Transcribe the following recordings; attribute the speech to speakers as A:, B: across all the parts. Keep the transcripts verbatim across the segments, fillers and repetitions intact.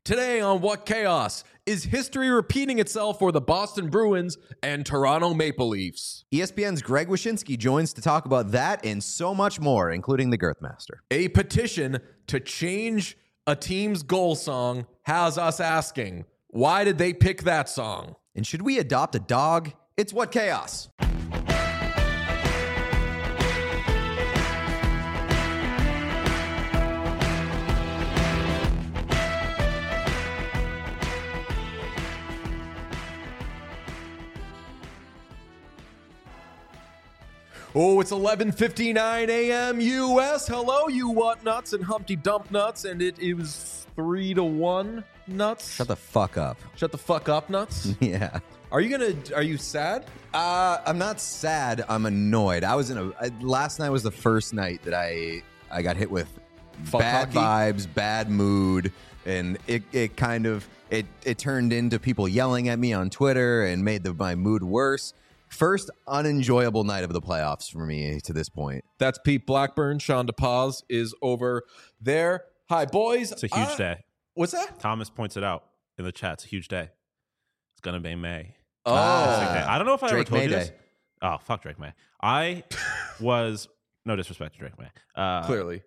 A: Today on What Chaos, is history repeating itself for the Boston Bruins and Toronto Maple Leafs?
B: E S P N's Greg Wyshynski joins to talk about that and so much more, including the Girthmaster.
A: A petition to change a team's goal song has us asking, why did they pick that song?
B: And should we adopt a dog? It's What Chaos.
A: Oh, it's eleven fifty-nine a.m. U S. Hello, you what nuts and Humpty Dump nuts, and it, it was three to one nuts.
B: Shut the fuck up.
A: Shut the fuck up, nuts.
B: Yeah.
A: Are you gonna? Are you sad?
B: Uh, I'm not sad. I'm annoyed. I was in a. I, last night was the first night that I I got hit with
A: Fuck
B: bad
A: hockey?
B: vibes, bad mood, and it it kind of it it turned into people yelling at me on Twitter and made the, my mood worse. First unenjoyable night of the playoffs for me to this point.
A: That's Pete Blackburn. Sean DePaz is over there. Hi, boys.
C: It's a huge
A: Uh,
C: day.
A: What's that?
C: Thomas points it out in the chat. It's a huge day. It's gonna be May.
A: Oh,
C: It's a big day. I don't know if I
B: Drake
C: ever told
B: May
C: you this.
B: Day.
C: Oh, fuck Drake May. I was no disrespect to Drake May. Uh,
A: clearly.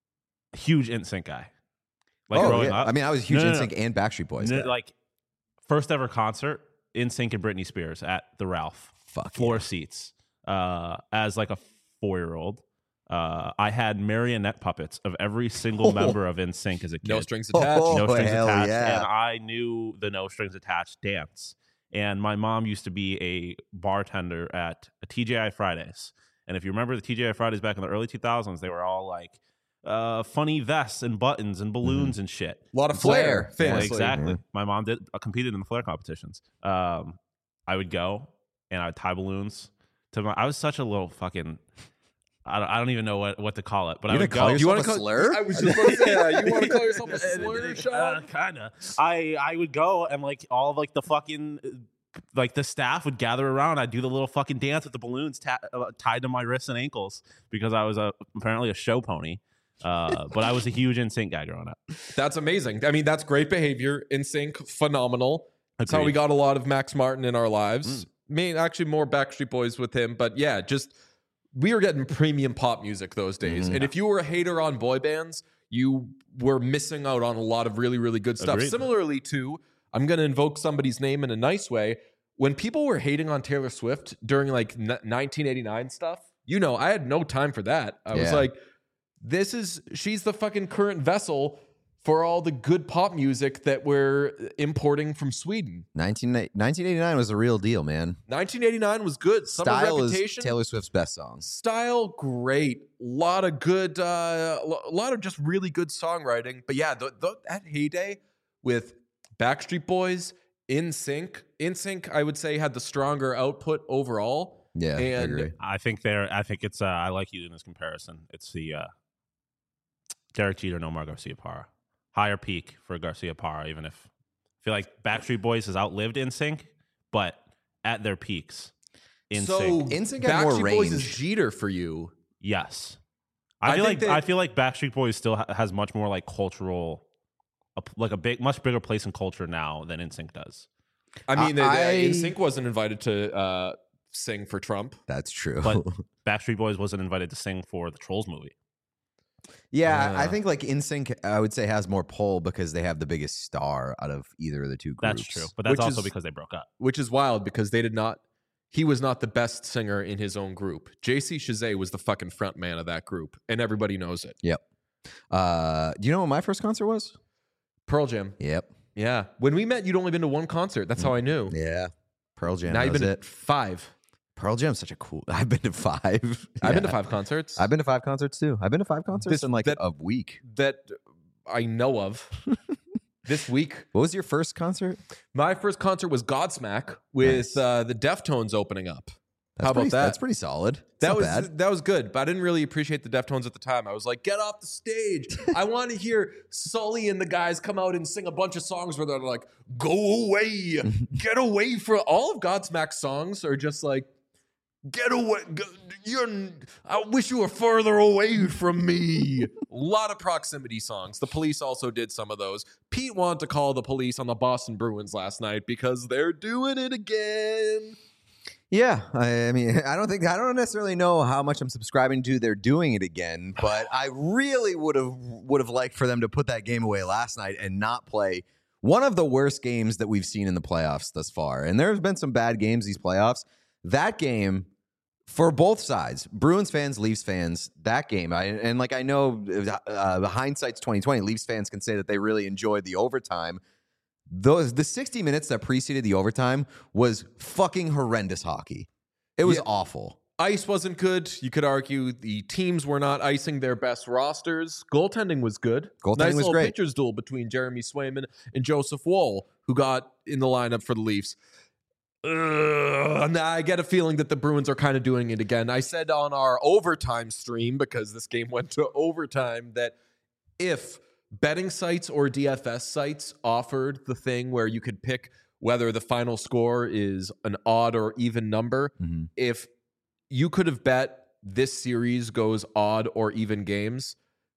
C: huge N Sync guy. Like
B: oh,
C: growing
B: yeah.
C: up.
B: I mean, I was a huge
C: No, no,
B: N
C: no.
B: Sync and Backstreet Boys.
C: N-
B: guy.
C: like first ever concert, N Sync and Britney Spears at the Ralph.
B: Fuck
C: Floor
B: yeah.
C: seats. Uh, as like a four year old. Uh, I had marionette puppets of every single
B: Oh.
C: member of N Sync as a kid.
A: No strings attached.
B: Oh,
C: no strings
B: hell
C: attached,
B: yeah.
C: and I knew the no strings attached dance. And my mom used to be a bartender at a T J I Fridays. And if you remember the T J I Fridays back in the early two thousands, they were all like uh, funny vests and buttons and balloons and shit.
A: A lot of flair.
B: Flair.
C: Yeah,
A: Famously.
C: exactly. My mom did uh, competed in the flair competitions. Um, I would go and I would tie balloons to my. I was such a little fucking. I don't, I don't even know what, what to call it, but
B: You
C: I would
B: gonna call
C: go.
B: yourself
A: You want
B: a
A: to call
B: slur?
A: I was just going to say that. You want to call yourself a slur, Sean?
C: Uh, kind of. I I would go and like all of like the fucking uh, like the staff would gather around. I'd do the little fucking dance with the balloons ta- uh, tied to my wrists and ankles because I was a apparently a show pony. Uh, but I was a huge N Sync guy growing up.
A: That's amazing. I mean, that's great behavior. In sync, phenomenal. That's how
C: Agreed.
A: we got a lot of Max Martin in our lives.
C: Mm.
A: Me, actually, more Backstreet Boys with him. But yeah, just we were getting premium pop music those days.
B: Mhm.
A: And if you were a hater on boy bands, you were missing out on a lot of really, really good stuff.
C: Agreed.
A: Similarly to, I'm going to invoke somebody's name in a nice way. When people were hating on Taylor Swift during like n- nineteen eighty-nine stuff, you know, I had no time for that. I was
B: Yeah.
A: like, this is, she's the fucking current vessel for all the good pop music that we're importing from Sweden.
B: nineteen, nineteen eighty-nine was the real deal, man.
A: nineteen eighty-nine was good. Summer
B: Style is
A: Reputation,
B: Taylor Swift's best song.
A: style, great. A lot of good, uh, a lot of just really good songwriting. But yeah, the, the, that heyday with Backstreet Boys, In Sync, In Sync, I would say had the stronger output overall.
B: Yeah, I
A: And-
B: agree.
C: I think there. I think it's. Uh, I like you in this comparison. It's the uh, Derek Jeter, Nomar Garcia Parra. Higher peak for Garcia Parra, even if I feel like Backstreet Boys has outlived N Sync, but at their peaks, N
A: So
C: Sync,
B: N Sync had more
A: Backstreet Boys is
B: range.
A: Jeter for you.
C: yes.
A: I
C: I feel
A: think
C: like
A: that-
C: I feel like Backstreet Boys still ha- has much more like cultural, a p- like a big, much bigger place in culture now than N Sync does.
A: I mean,
B: I-
A: I,
B: I-
A: In Sync wasn't invited to uh, sing for Trump.
B: That's true.
C: But Backstreet Boys wasn't invited to sing for the Trolls movie.
B: yeah, I
A: Uh.
B: think like NSYNC, I would say has more pull because they have the biggest star out of either of the two groups.
C: That's true, but that's
A: Which
C: also
A: is-
C: because they broke up.
A: Which is wild because they did not. He was not the best singer in his own group. J C Chazé was the fucking front man of that group, and everybody knows it.
B: Yep. Uh, do you know what my first concert was?
A: Pearl Jam.
B: Yep.
A: Yeah. When we met, you'd only been to one concert. That's how I knew.
B: Yeah. Pearl Jam.
A: now
B: that
A: you've
B: was
A: been
B: it.
A: to five.
B: Pearl Jam's such a cool. I've been to five.
A: I've been to
B: Yeah.
A: five concerts.
B: I've been to five concerts too. I've been to five concerts
A: This-
B: in like
A: that-
B: a week.
A: that I know of. This week,
B: What was your first concert?
A: my first concert was Godsmack with
B: Nice.
A: uh, the Deftones opening up.
B: That's
A: How about
B: pretty,
A: that?
B: That's pretty solid. It's
A: That
B: not
A: was
B: bad.
A: that was good, but I didn't really appreciate the Deftones at the time. I was like, get off the stage. I want to hear Sully and the guys come out and sing a bunch of songs where they're like, go away, get away from all of Godsmack's songs are just like Get away. Go, you're, I wish you were further away from me. A lot of proximity songs. The Police also did some of those. Pete wanted to call the police on the Boston Bruins last night because they're doing it again.
B: Yeah, I, I mean, I don't think I don't necessarily know how much I'm subscribing to. They're doing it again, but I really would have would have liked for them to put that game away last night and not play one of the worst games that we've seen in the playoffs thus far. And there's been some bad games these playoffs. That game, for both sides, Bruins fans, Leafs fans, that game, I, and like I know, uh, hindsight's twenty twenty. Leafs fans can say that they really enjoyed the overtime. Those the sixty minutes that preceded the overtime was fucking horrendous hockey. It was
A: Yeah.
B: awful.
A: Ice wasn't good. You could argue the teams were not icing their best rosters. Goaltending was good.
B: Goaltending
A: nice
B: was
A: little
B: great.
A: pitcher's duel between Jeremy Swayman and Joseph Woll, who got in the lineup for the Leafs. Ugh, and I get a feeling that the Bruins are kind of doing it again. I said on our overtime stream, because this game went to overtime, that if betting sites or D F S sites offered the thing where you could pick whether the final score is an odd or even number,
B: Mhm.
A: if you could have bet this series goes odd or even games,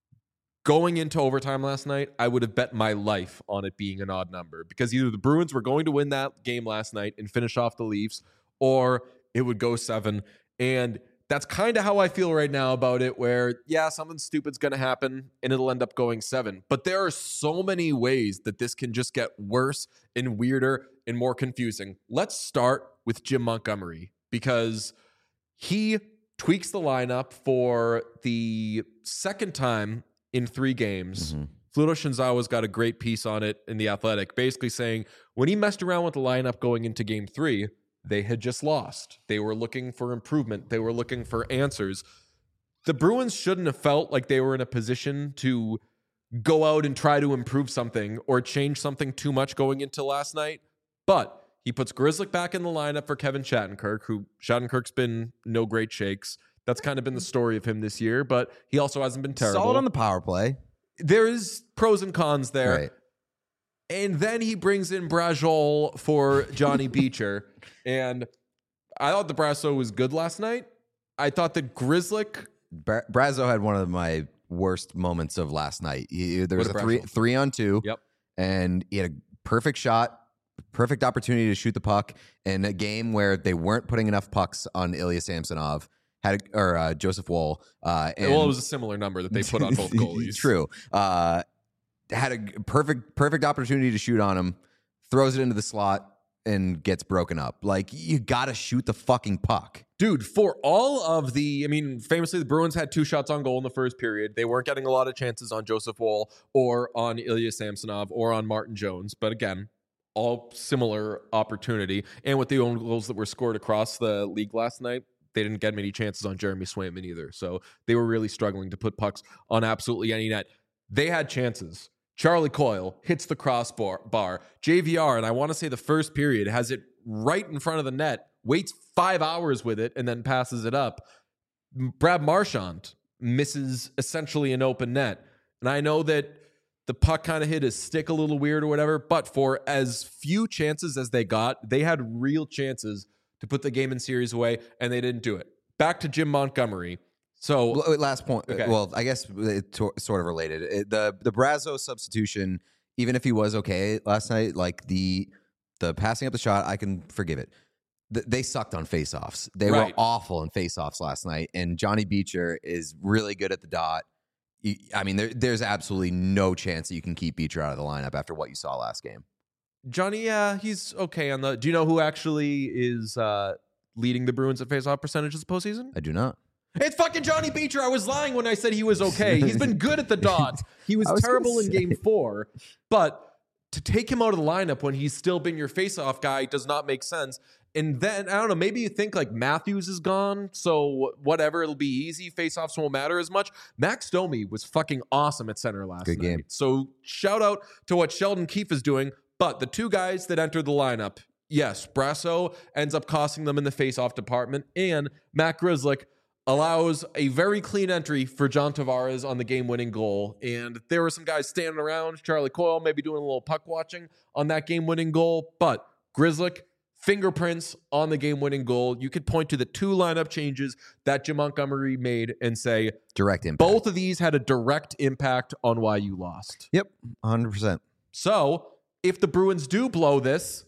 A: going into overtime last night, I would have bet my life on it being an odd number, because either the Bruins were going to win that game last night and finish off the Leafs, or it would go seven. And that's kind of how I feel right now about it, where, yeah, something stupid's going to happen and it'll end up going seven. But there are so many ways that this can just get worse and weirder and more confusing. Let's start with Jim Montgomery, because he tweaks the lineup for the second time in three games.
B: Mm-hmm.
A: Fluto Shinzawa's got a great piece on it in The Athletic, basically saying when he messed around with the lineup going into game three, they had just lost. They were looking for improvement. They were looking for answers. The Bruins shouldn't have felt like they were in a position to go out and try to improve something or change something too much going into last night. But he puts Grzelcyk back in the lineup for Kevin Shattenkirk, who Shattenkirk's been no great shakes. That's kind of been the story of him this year, but he also hasn't been terrible.
B: Solid on the power play.
A: There is pros and cons there.
B: Right.
A: And then he brings in Brajol for Johnny Beecher. And I thought the Brasso was good last night. I thought that Grzelcyk...
B: Bra- Brazo had one of my worst moments of last night. He, there was a
A: What a
B: three
A: Brazo.
B: three on two.
A: Yep.
B: And he had a perfect shot, perfect opportunity to shoot the puck in a game where they weren't putting enough pucks on Ilya Samsonov. Had a, or uh, Joseph Woll. Uh, and
A: well, it was a similar number that they put on both goalies.
B: True. Uh, had a perfect perfect opportunity to shoot on him, throws it into the slot, and gets broken up. Like, you got to shoot the fucking puck.
A: Dude, for all of the, I mean, famously, the Bruins had two shots on goal in the first period. They weren't getting a lot of chances on Joseph Woll or on Ilya Samsonov or on Martin Jones. But again, all similar opportunity. And with the own goals that were scored across the league last night, they didn't get many chances on Jeremy Swayman either. So they were really struggling to put pucks on absolutely any net. They had chances. Charlie Coyle hits the crossbar. Bar. J V R, and I want to say the first period, has it right in front of the net, waits five hours with it, and then passes it up. Brad Marchand misses essentially an open net. And I know that the puck kind of hit his stick a little weird or whatever, but for as few chances as they got, they had real chances to put the game in series away, and they didn't do it. Back to Jim Montgomery. So
B: Well, last point.
A: Okay.
B: Well, I guess it's sort of related. It, the the Brazo substitution, even if he was okay last night, like the the passing up the shot, I can forgive it. Th- They sucked on faceoffs. They
A: Right.
B: were awful in faceoffs last night, and Johnny Beecher is really good at the dot. You- I mean, there, there's absolutely no chance that you can keep Beecher out of the lineup after what you saw last game.
A: Johnny, yeah, he's okay on the. Do you know who actually is uh, leading the Bruins at faceoff percentages this postseason?
B: I do not.
A: It's fucking Johnny Beecher. I was lying when I said he was okay. He's been good at the dot. He was,
B: I was
A: terrible
B: gonna
A: in
B: say.
A: game four, but to take him out of the lineup when he's still been your faceoff guy does not make sense. And then, I don't know, maybe you think like Matthews is gone, so whatever, it'll be easy. Faceoffs won't matter as much. Max Domi was fucking awesome at center last
B: Good
A: night.
B: game.
A: So shout out to what Sheldon Keefe is doing. But the two guys that entered the lineup, yes, Brasso ends up costing them in the faceoff department, and Matt Grzelcyk allows a very clean entry for John Tavares on the game-winning goal. And there were some guys standing around, Charlie Coyle maybe doing a little puck watching on that game-winning goal, but Grzelcyk fingerprints on the game-winning goal. You could point to the two lineup changes that Jim Montgomery made and say
B: Direct impact.
A: both of these had a direct impact on why you lost.
B: Yep, one hundred percent.
A: So if the Bruins do blow this,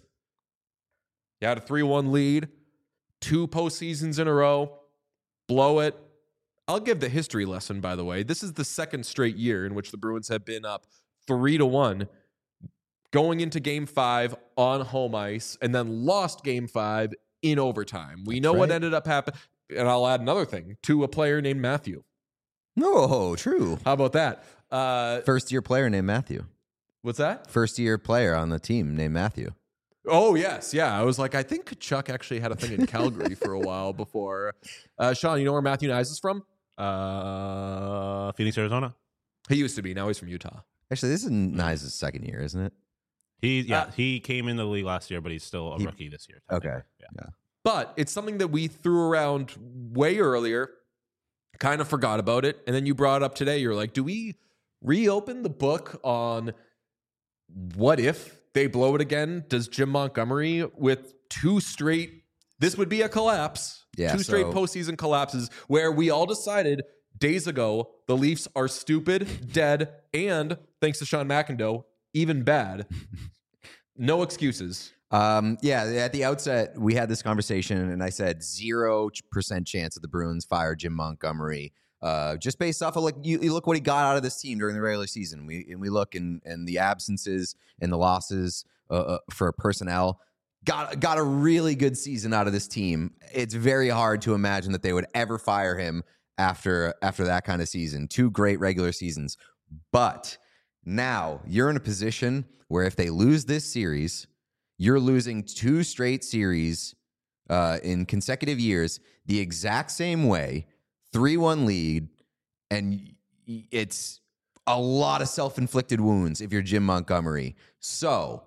A: you had a three one lead, two postseasons in a row, blow it. I'll give the history lesson, by the way. This is the second straight year in which the Bruins have been up three to one going into game five on home ice and then lost game five in overtime. We
B: That's
A: know
B: right.
A: what ended up happening. And I'll add another thing to a player named Matthew.
B: No, true.
A: How about that? Uh,
B: First year player named Matthew.
A: what's that?
B: First year player on the team named Matthew.
A: Oh, yes. Yeah. I was like, I think Chuck actually had a thing in Calgary for a while before. Uh, Sean, you know where Matthew Nyes is from?
C: Uh, Phoenix, Arizona.
A: He used to be. Now he's from Utah.
B: Actually, this is Nyes' second year, isn't it?
C: He yeah
A: Uh,
C: he came in the league last year, but he's still a
B: He-
C: rookie this year.
B: Okay.
C: technically. Yeah.
A: But it's something that we threw around way earlier, kind of forgot about it. And then you brought it up today. You're like, do we reopen the book on what if they blow it again? Does Jim Montgomery, with two straight, this would be a collapse,
B: Yeah,
A: two straight
B: so-
A: postseason collapses where we all decided days ago the Leafs are stupid, dead, and thanks to Sean McIndoe, even bad. No excuses.
B: Um, yeah, at the outset, we had this conversation, and I said zero percent chance that the Bruins fire Jim Montgomery, uh, just based off of like you, you look what he got out of this team during the regular season. We and we look and and the absences and the losses uh, uh, for personnel. Got got a really good season out of this team. It's very hard to imagine that they would ever fire him after after that kind of season. Two great regular seasons, but now you're in a position where if they lose this series, you're losing two straight series uh, in consecutive years the exact same way, three one lead, and y- it's a lot of self-inflicted wounds if you're Jim Montgomery. So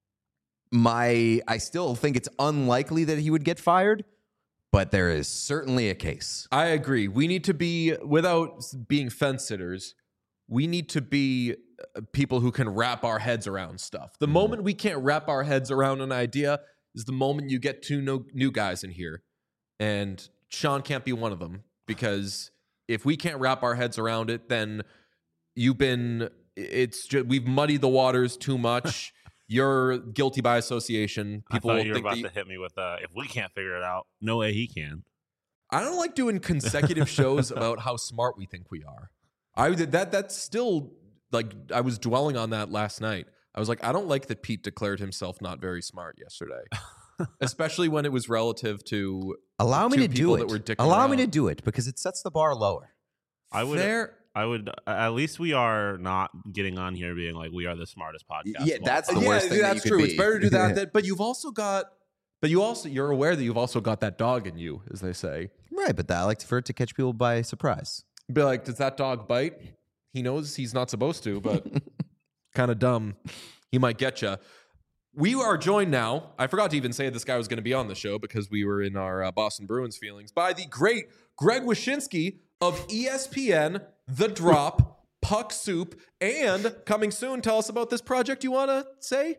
B: my I still think it's unlikely that he would get fired, but there is certainly a case.
A: I agree. We need to be, without being fence sitters, we need to be uh, people who can wrap our heads around stuff. The moment we can't wrap our heads around an idea is the moment you get two no, new guys in here. And Sean can't be one of them, because if we can't wrap our heads around it, then you've been, it's just, we've muddied the waters too much. You're guilty by association. People
C: I
A: will
C: thought you were
A: think
C: about
A: that you-
C: to hit me with uh, if we can't figure it out, no way he can.
A: I don't like doing consecutive shows about how smart we think we are. I did that. That's still like I was dwelling on that last night. I was like, I don't like that Pete declared himself not very smart yesterday, especially when it was relative to.
B: Allow me
A: two
B: to do
A: people
B: it.
A: that were dicking
B: Allow me
A: around.
B: to do it because it sets the bar lower.
C: I would.
A: Fair.
C: I would. At least we are not getting on here being like we are the smartest podcast.
B: Yeah,
C: of all
B: that's
C: time.
B: the
A: yeah,
B: worst thing that
A: that's
B: you could
A: true.
B: be.
A: It's better to do that. that. But you've also got. But you also you're aware that you've also got that dog in you, as they say.
B: Right, but I like for it to catch people by surprise.
A: Be like, does that dog bite? He knows he's not supposed to, but kind of dumb. He might get you. We are joined now. I forgot to even say this guy was going to be on the show because we were in our uh, Boston Bruins feelings by the great Greg Wyshynski of E S P N, The Drop, Puck Soup, and coming soon. Tell us about this project you want to say.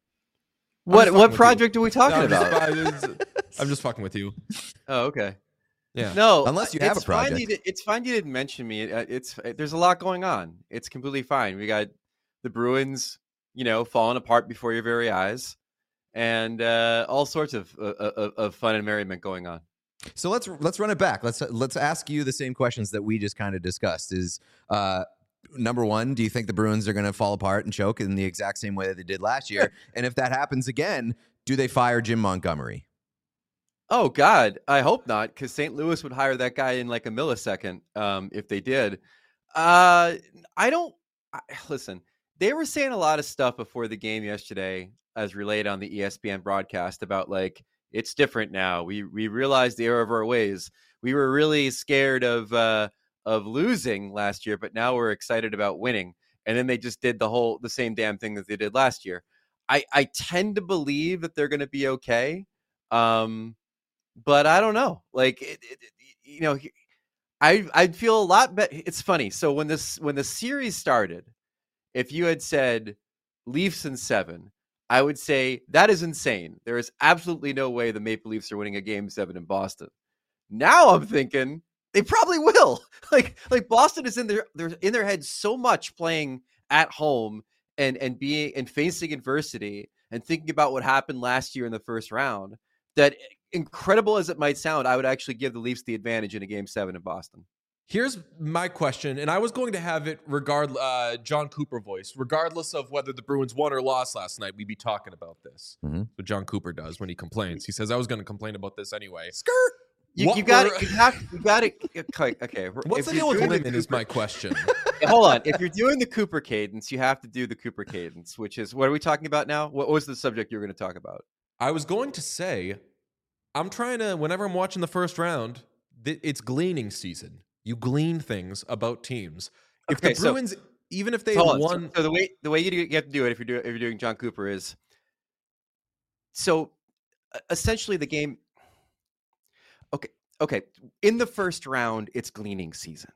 A: I'm
D: What
A: just
D: what
A: fucking with
D: project are we
A: you.
D: talking
A: No, I'm just-
D: about?
A: I'm just- I'm just fucking with you.
D: Oh, okay.
A: Yeah.
D: No,
B: Unless you have
D: it's
B: a project.
D: Fine you did, it's fine you didn't mention me. It, uh, it's there's a lot going on. It's completely fine. We got the Bruins, you know, falling apart before your very eyes, and uh, all sorts of, uh, of of fun and merriment going on.
B: So let's let's run it back. Let's let's ask you the same questions that we just kind of discussed. Is uh, number one, do you think the Bruins are going to fall apart and choke in the exact same way that they did last year? And if that happens again, do they fire Jim Montgomery?
D: Oh God, I hope not, because Saint Louis would hire that guy in like a millisecond um, if they did. Uh, I don't I, listen. They were saying a lot of stuff before the game yesterday, as relayed on the E S P N broadcast, about like it's different now. We we realized the error of our ways. We were really scared of uh, of losing last year, but now we're excited about winning. And then they just did the whole the same damn thing that they did last year. I I tend to believe that they're going to be okay. Um, But I don't know. Like, it, it, it, you know, I I'd feel a lot better. It's funny. So when this when the series started, if you had said Leafs in seven, I would say that is insane. There is absolutely no way the Maple Leafs are winning a game seven in Boston. Now I'm thinking they probably will. Like, like Boston is in their they're in their head so much playing at home and and being and facing adversity and thinking about what happened last year in the first round that, incredible as it might sound, I would actually give the Leafs the advantage in a game seven in Boston.
A: Here's my question, and I was going to have it regard uh, John Cooper voice, regardless of whether the Bruins won or lost last night. We'd be talking about this.
B: Mm-hmm.
A: That's what John Cooper does when he complains. He says, "I was going to complain about this anyway."
B: Skirt.
D: You,
A: What
D: you got
A: were-
D: it. You have. You got it. Okay. okay.
A: What's
D: If
A: the
D: you're
A: deal with
D: doing the
A: women? Is
D: Cooper-
A: my question.
D: Hold on. If you're doing the Cooper cadence, you have to do the Cooper cadence, which is, what are we talking about now? What was the subject you were going to talk about?
A: I was going to say, I'm trying to. Whenever I'm watching the first round, th- it's gleaning season. You glean things about teams. If
D: Okay,
A: the
D: so-
A: Bruins, even if they
D: Hold
A: have
D: on. So-
A: won,
D: So, the way the way you, do, you have to do it if you're doing if you're doing John Cooper is, so uh, essentially the game. Okay. Okay. In the first round, it's gleaning season.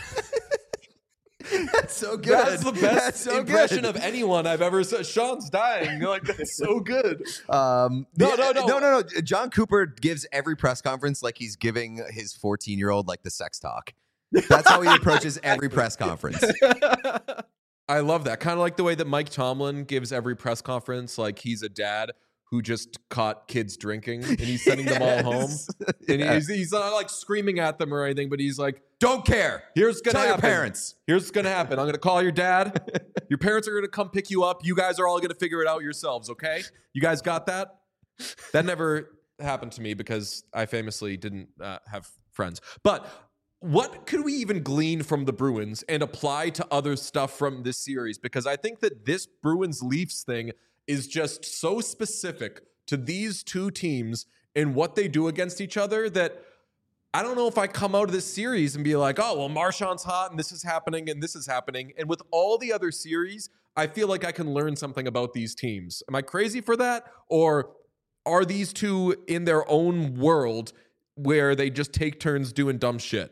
B: That's so good.
A: that's the best
B: That's so
A: impression
B: good.
A: of anyone I've ever said. Sean's dying. You're like, that's so good.
B: Um,
A: No,
B: the-
A: no, no.
B: no, no, no. John Cooper gives every press conference like he's giving his fourteen-year-old like the sex talk. That's how he approaches every press conference.
A: I love that. Kind of like the way that Mike Tomlin gives every press conference like he's a dad who just caught kids drinking and he's sending them all home.
B: Yes.
A: And
B: Yeah.
A: he's, he's not like screaming at them or anything, but he's like,
B: Don't care.
A: here's gonna
B: Tell your
A: happen.
B: parents.
A: Here's what's gonna happen. I'm gonna call your dad. Your parents are gonna come pick you up. You guys are all gonna figure it out yourselves, okay? You guys got that? That never happened to me because I famously didn't uh, have friends. But what could we even glean from the Bruins and apply to other stuff from this series? Because I think that this Bruins Leafs thing is just so specific to these two teams and what they do against each other that I don't know if I come out of this series and be like, oh, well, Marchand's hot and this is happening and this is happening. And with all the other series, I feel like I can learn something about these teams. Am I crazy for that? Or are these two in their own world where they just take turns doing dumb shit?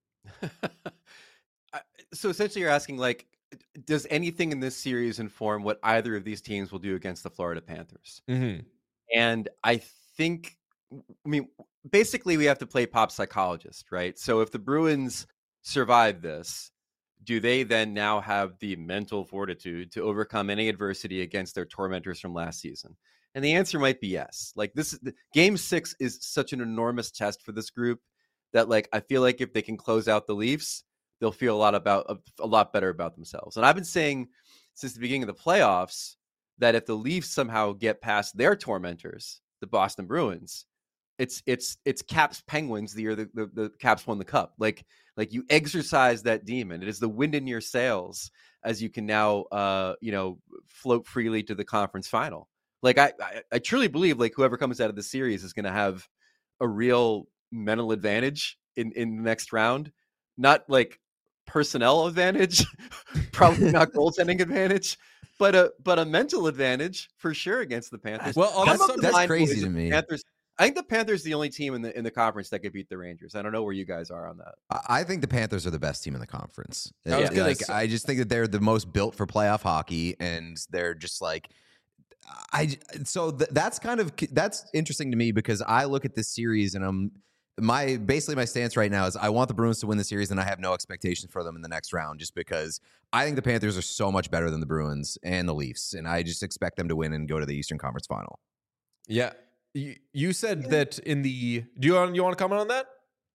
D: I- so essentially you're asking, like, does anything in this series inform what either of these teams will do against the Florida Panthers?
A: Mm-hmm.
D: And I think, I mean, basically we have to play pop psychologist, right? So if the Bruins survive this, do they then now have the mental fortitude to overcome any adversity against their tormentors from last season? And the answer might be yes. Like, this game six is such an enormous test for this group that, like, I feel like if they can close out the Leafs, they'll feel a lot about a lot better about themselves. And I've been saying since the beginning of the playoffs that if the Leafs somehow get past their tormentors, the Boston Bruins, it's it's it's Caps Penguins the year the, the, the Caps won the cup. Like like you exercise that demon. It is the wind in your sails as you can now uh you know float freely to the conference final. Like I I, I truly believe like whoever comes out of the series is going to have a real mental advantage in in the next round. Not like personnel advantage, probably not goaltending advantage, but a but a mental advantage for sure against the Panthers.
A: Well, on
B: That's-
A: that subject-
B: that's
D: Line
B: crazy
D: boys,
B: to
D: the
B: me.
D: Panthers, I think the Panthers the only team in the in the conference that could beat the Rangers. I don't know where you guys are on that.
B: I I think the Panthers are the best team in the conference.
A: I was
B: Uh,
A: gonna
B: like,
A: say-
B: I just think that they're the most built for playoff hockey, and they're just like, I. So th- that's kind of that's interesting to me because I look at this series and I'm my basically my stance right now is I want the Bruins to win the series, and I have no expectations for them in the next round, just because I think the Panthers are so much better than the Bruins and the Leafs, and I just expect them to win and go to the Eastern Conference Final.
A: Yeah. You, you said that in the. Do you want, you want to comment on that?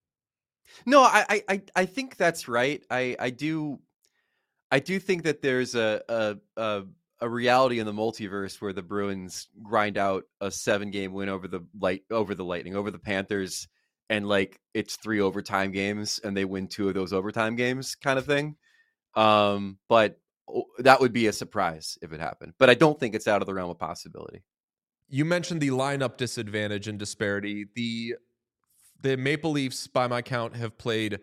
D: No, I, I, I- I think that's right. I, I do, I do think that there's a, a, a, a reality in the multiverse where the Bruins grind out a seven-game win over the light, over the Lightning, over the Panthers, and like it's three overtime games, and they win two of those overtime games, kind of thing. Um, but oh, that would be a surprise if it happened. But I don't think it's out of the realm of possibility.
A: You mentioned the lineup disadvantage and disparity. The the Maple Leafs, by my count, have played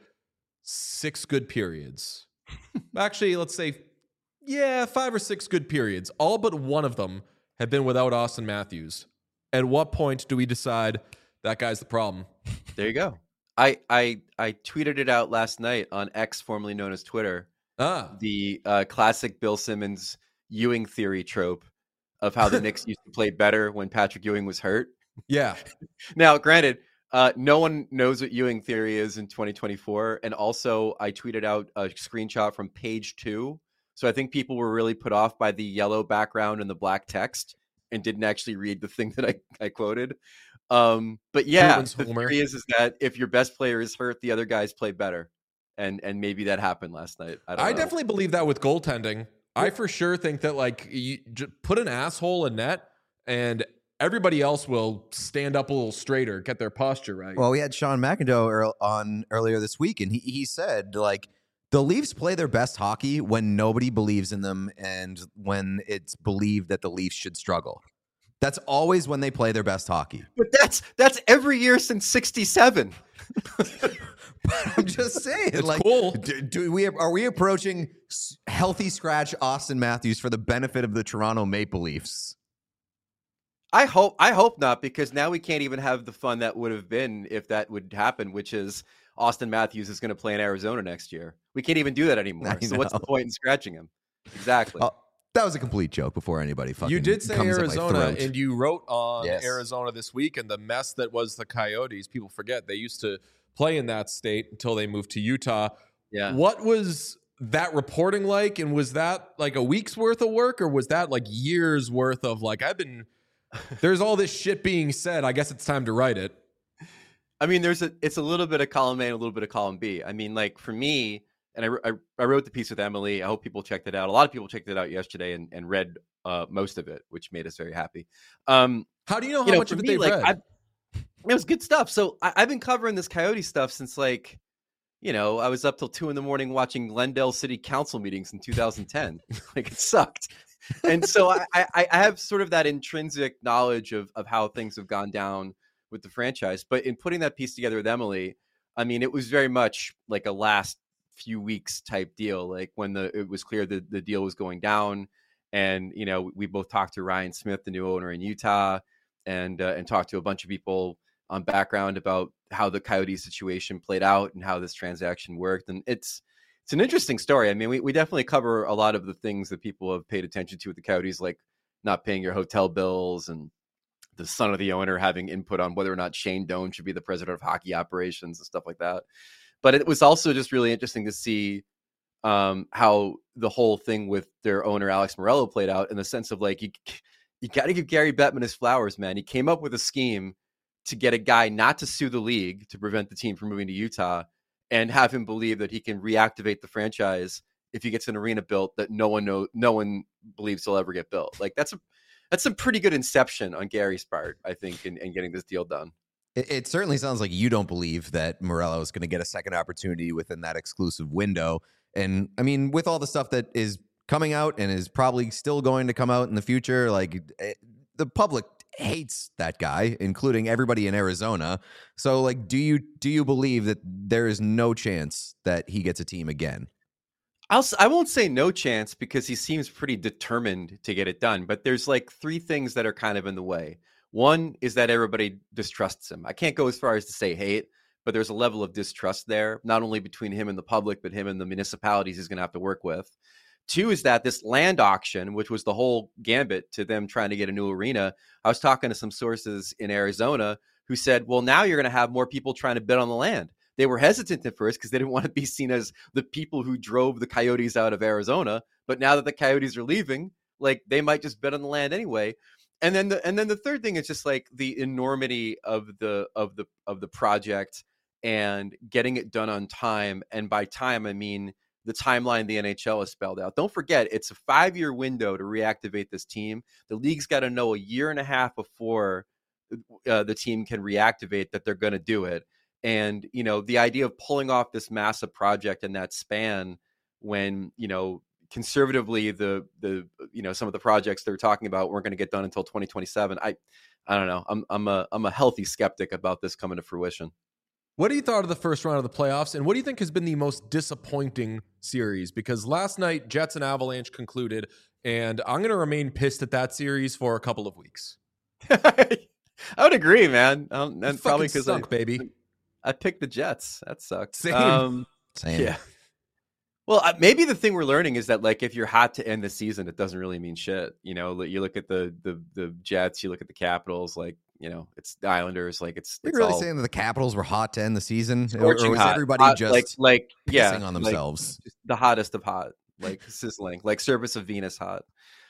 A: six good periods. Actually, let's say, yeah, five or six good periods. All but one of them have been without Austin Matthews. At what point do we decide that guy's the problem?
D: There you go. I, I, I tweeted it out last night on X, formerly known as Twitter.
A: Ah,
D: The uh, classic Bill Simmons Ewing theory trope of how the Knicks used to play better when Patrick Ewing was hurt.
A: Yeah.
D: Now, granted, uh, no one knows what Ewing theory is in twenty twenty-four. And also, I tweeted out a screenshot from page two. So I think people were really put off by the yellow background and the black text and didn't actually read the thing that I, I quoted. Um, but yeah,
A: Ruins
D: the
A: Homer.
D: theory is, is that if your best player is hurt, the other guys play better. And and maybe that happened last night. I, don't
A: I
D: know.
A: definitely believe that with goaltending. I for sure think that like you j- put an asshole in net and everybody else will stand up a little straighter, get their posture right.
B: Well, we had Sean McIndoe earl- on earlier this week, and he, he said, like, the Leafs play their best hockey when nobody believes in them and when it's believed that the Leafs should struggle. That's always when they play their best hockey.
D: But that's that's every year since sixty-seven.
B: I'm just saying,
A: It's
B: like,
A: cool.
B: do, do we are we approaching s- healthy scratch Austin Matthews for the benefit of the Toronto Maple Leafs?
D: I hope I hope not, because now we can't even have the fun that would have been if that would happen, which is Austin Matthews is going to play in Arizona next year. We can't even do that anymore.
B: I
D: So what's the
B: know.
D: point in scratching him? Exactly.
B: Oh, that was a complete joke before anybody fucking
A: You did say
B: comes at my
A: Arizona,
B: throat.
A: and you wrote on
B: Yes.
A: Arizona this week and the mess that was the Coyotes. People forget they used to play in that state until they moved to Utah.
D: Yeah.
A: What was that reporting like? And was that like a week's worth of work, or was that like years worth of like, I've been, there's all this shit being said. I guess it's time to write it.
D: I mean, there's a it's a little bit of column A and a little bit of column B. I mean, like for me, and I, I, I wrote the piece with Emily. I hope people checked it out. A lot of people checked it out yesterday and, and read uh, most of it, which made us very happy. Um,
A: How do you know how
D: you know,
A: much
D: for
A: of it
D: me,
A: they've
D: like,
A: read?
D: I've, it was good stuff. So I, I've been covering this Coyote stuff since like, you know, I was up till two in the morning watching Glendale City Council meetings in two thousand ten. Like it sucked. And so I, I, I have sort of that intrinsic knowledge of, of how things have gone down with the franchise. But in putting that piece together with Emily, I mean, it was very much like a last few weeks type deal. Like when the it was clear that the deal was going down, and you know, we both talked to Ryan Smith, the new owner in Utah, and uh, and talked to a bunch of people on background about how the Coyotes situation played out and how this transaction worked. And it's it's an interesting story. I mean, we, we definitely cover a lot of the things that people have paid attention to with the Coyotes, like not paying your hotel bills and the son of the owner having input on whether or not Shane Doan should be the president of hockey operations and stuff like that. But it was also just really interesting to see um, how the whole thing with their owner, Alex Morello, played out in the sense of like, you, you got to give Gary Bettman his flowers, man. He came up with a scheme to get a guy not to sue the league to prevent the team from moving to Utah and have him believe that he can reactivate the franchise if he gets an arena built that no one know, no one believes he'll ever get built. Like that's a, that's some pretty good inception on Gary's part, I think, in, in getting this deal done.
B: It, it certainly sounds like you don't believe that Morello is going to get a second opportunity within that exclusive window. And I mean, with all the stuff that is coming out and is probably still going to come out in the future, like it, the public hates that guy, including everybody in Arizona. So, like, do you do you believe that there is no chance that he gets a team again?
D: I'll, I won't say no chance because he seems pretty determined to get it done. But there's like three things that are kind of in the way. One is that everybody distrusts him. I can't go as far as to say hate, but there's a level of distrust there, not only between him and the public, but him and the municipalities he's going to have to work with. Two is that this land auction, which was the whole gambit to them trying to get a new arena. I was talking to some sources in Arizona who said, well, now you're going to have more people trying to bid on the land. They were hesitant at first because they didn't want to be seen as the people who drove the Coyotes out of Arizona. But now that the Coyotes are leaving, like they might just bid on the land anyway. And then the and then the third thing is just like the enormity of the of the of the project and getting it done on time. And by time, I mean the timeline the N H L has spelled out. Don't forget, it's a five-year window to reactivate this team. The league's got to know a year and a half before uh, the team can reactivate that they're going to do it. And, you know, the idea of pulling off this massive project in that span when, you know, conservatively the, the, you know, some of the projects they're talking about weren't going to get done until twenty twenty-seven. I, I don't know. I'm, I'm a, I'm a healthy skeptic about this coming to fruition.
A: What do you thought of the first round of the playoffs, and what do you think has been the most disappointing series? Because last night, Jets and Avalanche concluded, and I'm going to remain pissed at that series for a couple of weeks.
D: I would agree, man. Um,
A: It
D: and probably
A: fucking
D: because I,
A: stunk, baby.
D: I picked the Jets. That sucked.
A: Same.
D: Um,
B: Same.
D: yeah. Well, uh, maybe the thing we're learning is that like if you're hot to end the season, it doesn't really mean shit. You know, like, you look at the the the Jets, you look at the Capitals, like you know, it's the Islanders, like it's.
B: Are you
D: it's
B: really
D: all
B: saying that the Capitals were hot to end the season, or,
D: scorching
B: or was
D: hot.
B: everybody
D: Hot,
B: just
D: like like
B: pissing
D: yeah
B: on
D: like,
B: themselves?
D: just the hottest of hot, like sizzling, like Service of Venus hot.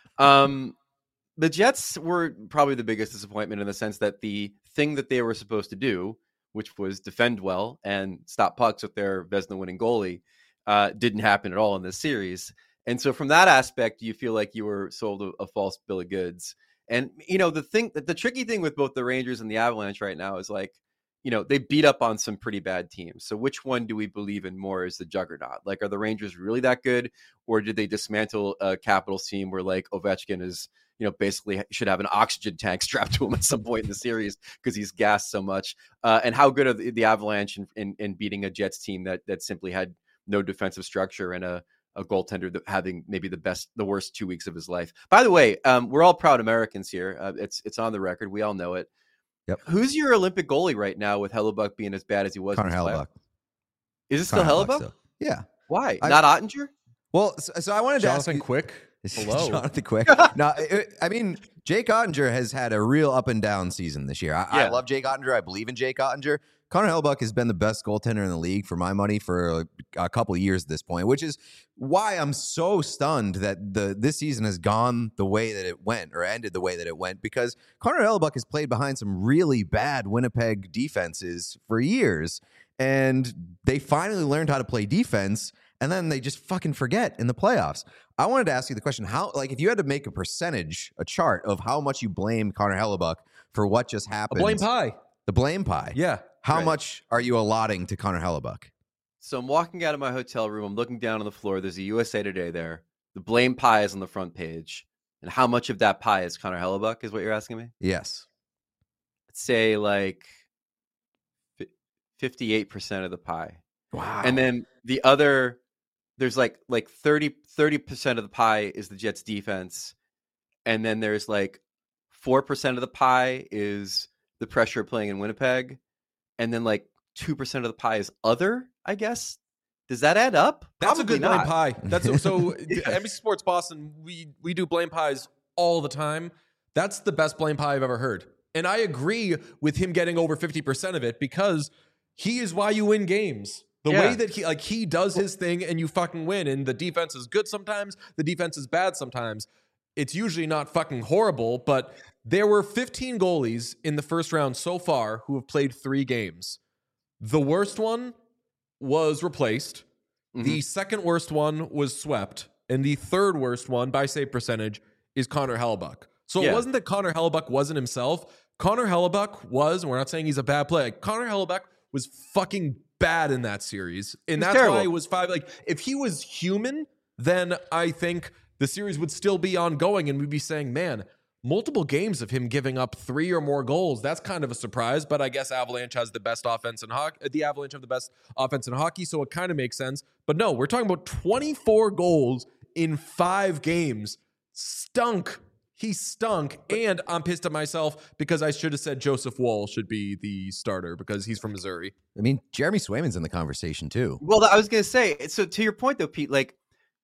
D: Um, the Jets were probably the biggest disappointment in the sense that the thing that they were supposed to do, which was defend well and stop pucks with their Vezina-winning goalie, uh, didn't happen at all in this series. And so from that aspect, you feel like you were sold a, a false bill of goods. And, you know, the thing that the tricky thing with both the Rangers and the Avalanche right now is like, you know, they beat up on some pretty bad teams. So which one do we believe in more as the juggernaut? Like, are the Rangers really that good? Or did they dismantle a Capitals team where like Ovechkin is, you know, basically should have an oxygen tank strapped to him at some point in the series because he's gassed so much? Uh, and how good are the, the Avalanche in, in, in beating a Jets team that that simply had no defensive structure and a, a goaltender that having maybe the best, the worst two weeks of his life? By the way, um, we're all proud Americans here. Uh, it's it's on the record. We all know it.
B: Yep.
D: Who's your Olympic goalie right now with Hellebuck being as bad as he was?
B: Connor
D: in his
B: Hellebuck.
D: Is it still
B: Connor
D: Hellebuck?
B: still. Yeah.
D: Why?
B: I-
D: Not Ottinger?
B: Well, so, so I wanted to ask
A: Jonathan
B: you,
A: Quick. Hello.
B: Jonathan Quick. No, it, I mean, Jake Ottinger has had a real up and down season this year. I, I
D: Yeah.
B: love Jake Ottinger. I believe in Jake Ottinger. Connor Hellebuck has been the best goaltender in the league for my money for a, a couple of years at this point, which is why I'm so stunned that the this season has gone the way that it went or ended the way that it went, because Connor Hellebuck has played behind some really bad Winnipeg defenses for years, and they finally learned how to play defense, and then they just fucking forget in the playoffs. I wanted to ask you the question, how, like, if you had to make a percentage, a chart of how much you blame Connor Hellebuck for what just
A: A
B: happened.
A: blame pie.
B: The blame pie.
A: Yeah.
B: How
D: Right.
B: much are you allotting to Connor Hellebuck?
D: So I'm walking out of my hotel room. I'm looking down on the floor. There's a U S A Today there. The blame pie is on the front page. And how much of that pie is Connor Hellebuck is what you're asking me?
B: Yes.
D: I'd say like fifty-eight percent of the pie.
B: Wow.
D: And then the other, there's like like thirty percent of the pie is the Jets defense. And then there's like four percent of the pie is the pressure of playing in Winnipeg. And then like two percent of the pie is other, I guess. Does that add up?
A: That's
D: Probably
A: a good
D: not.
A: blame pie. That's so
D: Yeah.
A: N B C Sports Boston, we we do blame pies all the time. That's the best blame pie I've ever heard. And I agree with him getting over fifty percent of it because he is why you win games. The
D: Yeah.
A: way that he like he does his thing and you fucking win. And the defense is good sometimes, the defense is bad sometimes. It's usually not fucking horrible, but there were fifteen goalies in the first round so far who have played three games. The worst one was replaced.
D: Mhm.
A: The second worst one was swept. And the third worst one by save percentage is Connor Hellebuck. So
D: Yeah.
A: it wasn't that Connor Hellebuck wasn't himself. Connor Hellebuck was, and we're not saying he's a bad player. Connor Hellebuck was fucking bad in that series. And
D: He was
A: that's
D: terrible.
A: why it was five. Like, if he was human, then I think the series would still be ongoing and we'd be saying, man, multiple games of him giving up three or more goals. That's kind of a surprise, but I guess Avalanche has the best offense in hockey. The Avalanche have the best offense in hockey, so it kind of makes sense. But no, we're talking about twenty-four goals in five games. Stunk. He stunk. And I'm pissed at myself because I should have said Joseph Woll should be the starter because he's from Missouri.
B: I mean, Jeremy Swayman's in the conversation too.
D: Well, I was going to say, so to your point though, Pete, like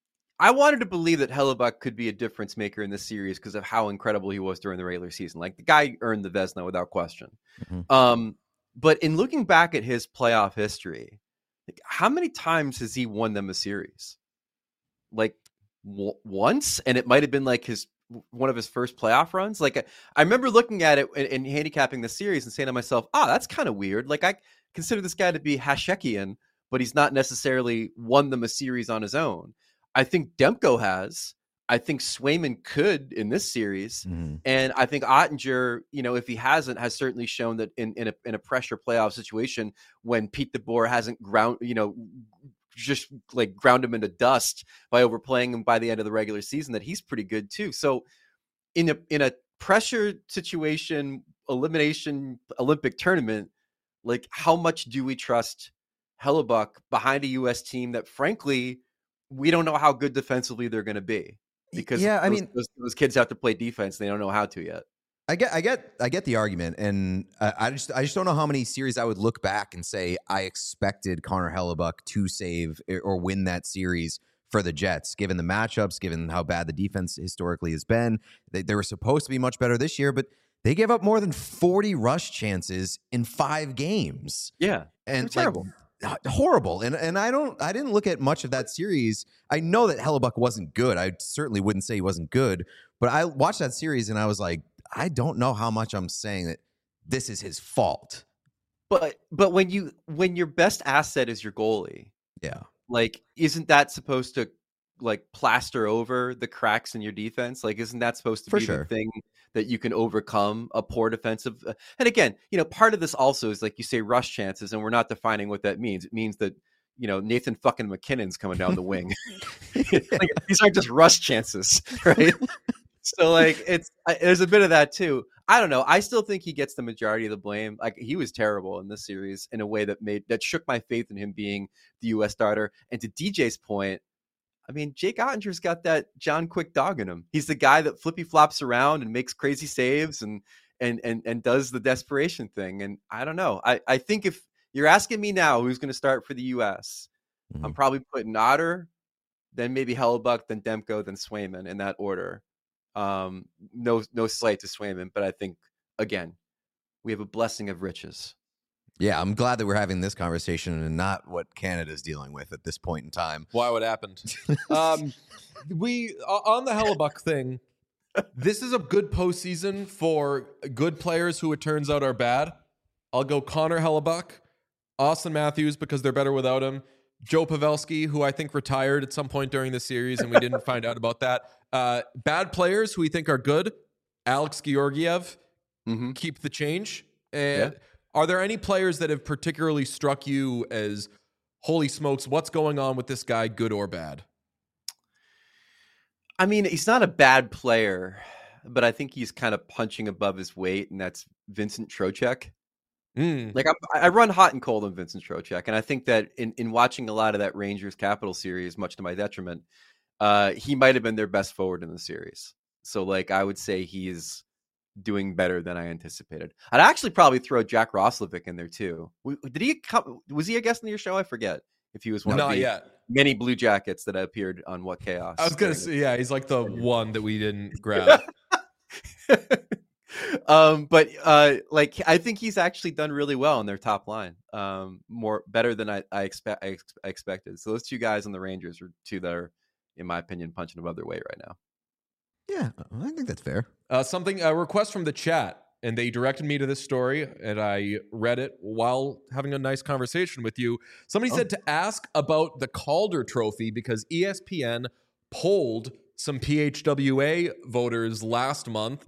D: I wanted to believe that Hellebuck could be a difference maker in this series because of how incredible he was during the regular season. Like the guy earned the Vezina without question.
B: Mhm.
D: Um, but in looking back at his playoff history, like, how many times has he won them a series? Like w- once, and it might have been like his one of his first playoff runs. Like I, I remember looking at it and, and handicapping the series and saying to myself, "Ah, oh, that's kind of weird." Like I consider this guy to be Hashekian, but he's not necessarily won them a series on his own. I think Demko has. I think Swayman could in this series.
B: Mhm.
D: And I think Ottinger, you know, if he hasn't, has certainly shown that in, in, a, in a pressure playoff situation when Pete DeBoer hasn't ground, you know, just like ground him into dust by overplaying him by the end of the regular season, that he's pretty good too. So in a, in a pressure situation, elimination, Olympic tournament, like how much do we trust Hellebuck behind a U S team that frankly, we don't know how good defensively they're going to be because
B: Yeah, I
D: those,
B: mean-
D: those, those kids have to play defense. They don't know how to yet.
B: I get, I get, I get the argument, and I, I just, I just don't know how many series I would look back and say I expected Connor Hellebuck to save or win that series for the Jets, given the matchups, given how bad the defense historically has been. They, they were supposed to be much better this year, but they gave up more than forty rush chances in five games.
D: Yeah,
B: and
D: they're terrible.
B: Like, horrible. And and I don't, I didn't look at much of that series. I know that Hellebuck wasn't good. I certainly wouldn't say he wasn't good, but I watched that series and I was like, I don't know how much I'm saying that this is his fault.
D: But but when you when your best asset is your goalie,
B: yeah,
D: like isn't that supposed to like plaster over the cracks in your defense? Like isn't that supposed to
B: For
D: be
B: sure.
D: the thing that you can overcome a poor defensive? Uh, and again, you know, part of this also is like you say rush chances, and we're not defining what that means. It means that you know Nathan fucking McKinnon's coming down the wing. Like, these aren't just rush chances, right? So like it's I, there's a bit of that too. I don't know. I still think he gets the majority of the blame. Like he was terrible in this series in a way that made that shook my faith in him being the U S starter. And to D J's point, I mean, Jake Ottinger's got that John Quick dog in him. He's the guy that flippy flops around and makes crazy saves and and and and does the desperation thing. And I don't know. I I think if you're asking me now who's going to start for the U S, mm-hmm. I'm probably putting Otter, then maybe Hellebuck, then Demko, then Swayman in that order. Um, no, no slight to Swayman, but I think again, we have a blessing of riches.
B: Yeah, I'm glad that we're having this conversation and not what Canada's dealing with at this point in time.
A: Why? What happened? um, we on the Hellebuck thing. This is a good postseason for good players who it turns out are bad. I'll go Connor Hellebuck, Austin Matthews because they're better without him. Joe Pavelski, who I think retired at some point during the series, and we didn't find out about that. Uh, bad players who we think are good. Alex Georgiev, mm-hmm. keep the change. And yeah. Are there any players that have particularly struck you as, holy smokes, what's going on with this guy, good or bad?
D: I mean, he's not a bad player, but I think he's kind of punching above his weight, and that's Vincent Trocheck. Mm. Like I, I run hot and cold on Vincent Trocheck, and I think that in, in watching a lot of that Rangers Capital series, much to my detriment, uh, he might have been their best forward in the series. So, like, I would say he's doing better than I anticipated. I'd actually probably throw Jack Roslovic in there too. Did he come? Was he a guest on your show? I forget if he was one
A: Not
D: of the
A: yet.
D: many Blue Jackets that appeared on What Chaos.
A: I was gonna say, yeah, he's like the one that we didn't grab.
D: um, but uh, like I think he's actually done really well on their top line, um, more better than I, I expect. I, ex- I expected. So those two guys on the Rangers are two that are, in my opinion, punching above their weight right now.
B: Yeah, I think that's fair.
A: Uh, something a request from the chat, and they directed me to this story, and I read it while having a nice conversation with you. Somebody oh. said to ask about the Calder Trophy because E S P N polled some P H W A voters last month,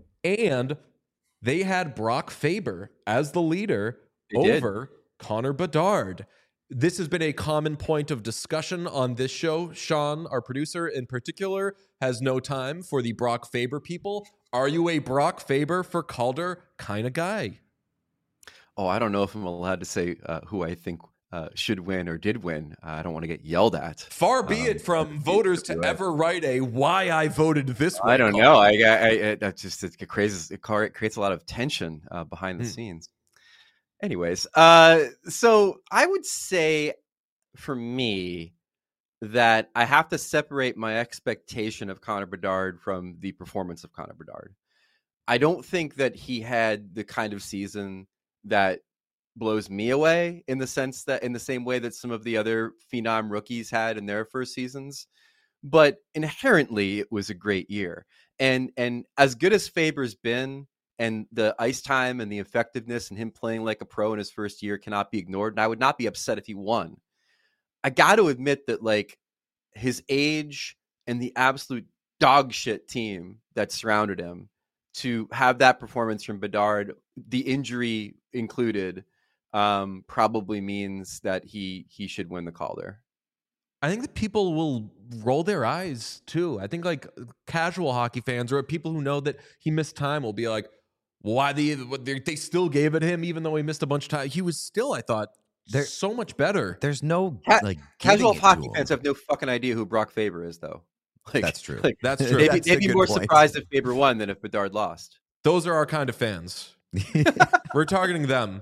A: and they had Brock Faber as the leader they over did. Connor Bedard. This has been a common point of discussion on this show. Sean, our producer in particular, has no time for the Brock Faber people. Are you a Brock Faber for Calder kind of guy?
D: Oh, I don't know if I'm allowed to say uh, who I think uh, should win or did win. Uh, I don't want to get yelled at.
A: Far be um, it from voters to ever write a why I voted this way.
D: I don't know. I, I, I that's just it creates it creates a lot of tension uh, behind the hmm. scenes. Anyways, uh, so I would say for me that I have to separate my expectation of Connor Bedard from the performance of Connor Bedard. I don't think that he had the kind of season that blows me away in the sense that in the same way that some of the other phenom rookies had in their first seasons, but inherently it was a great year. And, and as good as Faber's been, and the ice time and the effectiveness and him playing like a pro in his first year cannot be ignored. And I would not be upset if he won. I got to admit that like his age and the absolute dog shit team that surrounded him to have that performance from Bedard, the injury included, um, probably means that he, he should win the Calder.
A: I think that people will roll their eyes too. I think like casual hockey fans or people who know that he missed time will be like, why they they still gave it him even though he missed a bunch of time. He was still, I thought, they're so much better.
B: There's no
D: Ca-
B: like
D: casual hockey fans have no fucking idea who Brock Faber is, though.
B: Like, that's true.
A: Like, that's true.
D: Maybe,
A: that's
D: maybe more
B: point.
D: surprised if Faber won than if Bedard lost.
A: Those are our kind of fans. We're targeting them.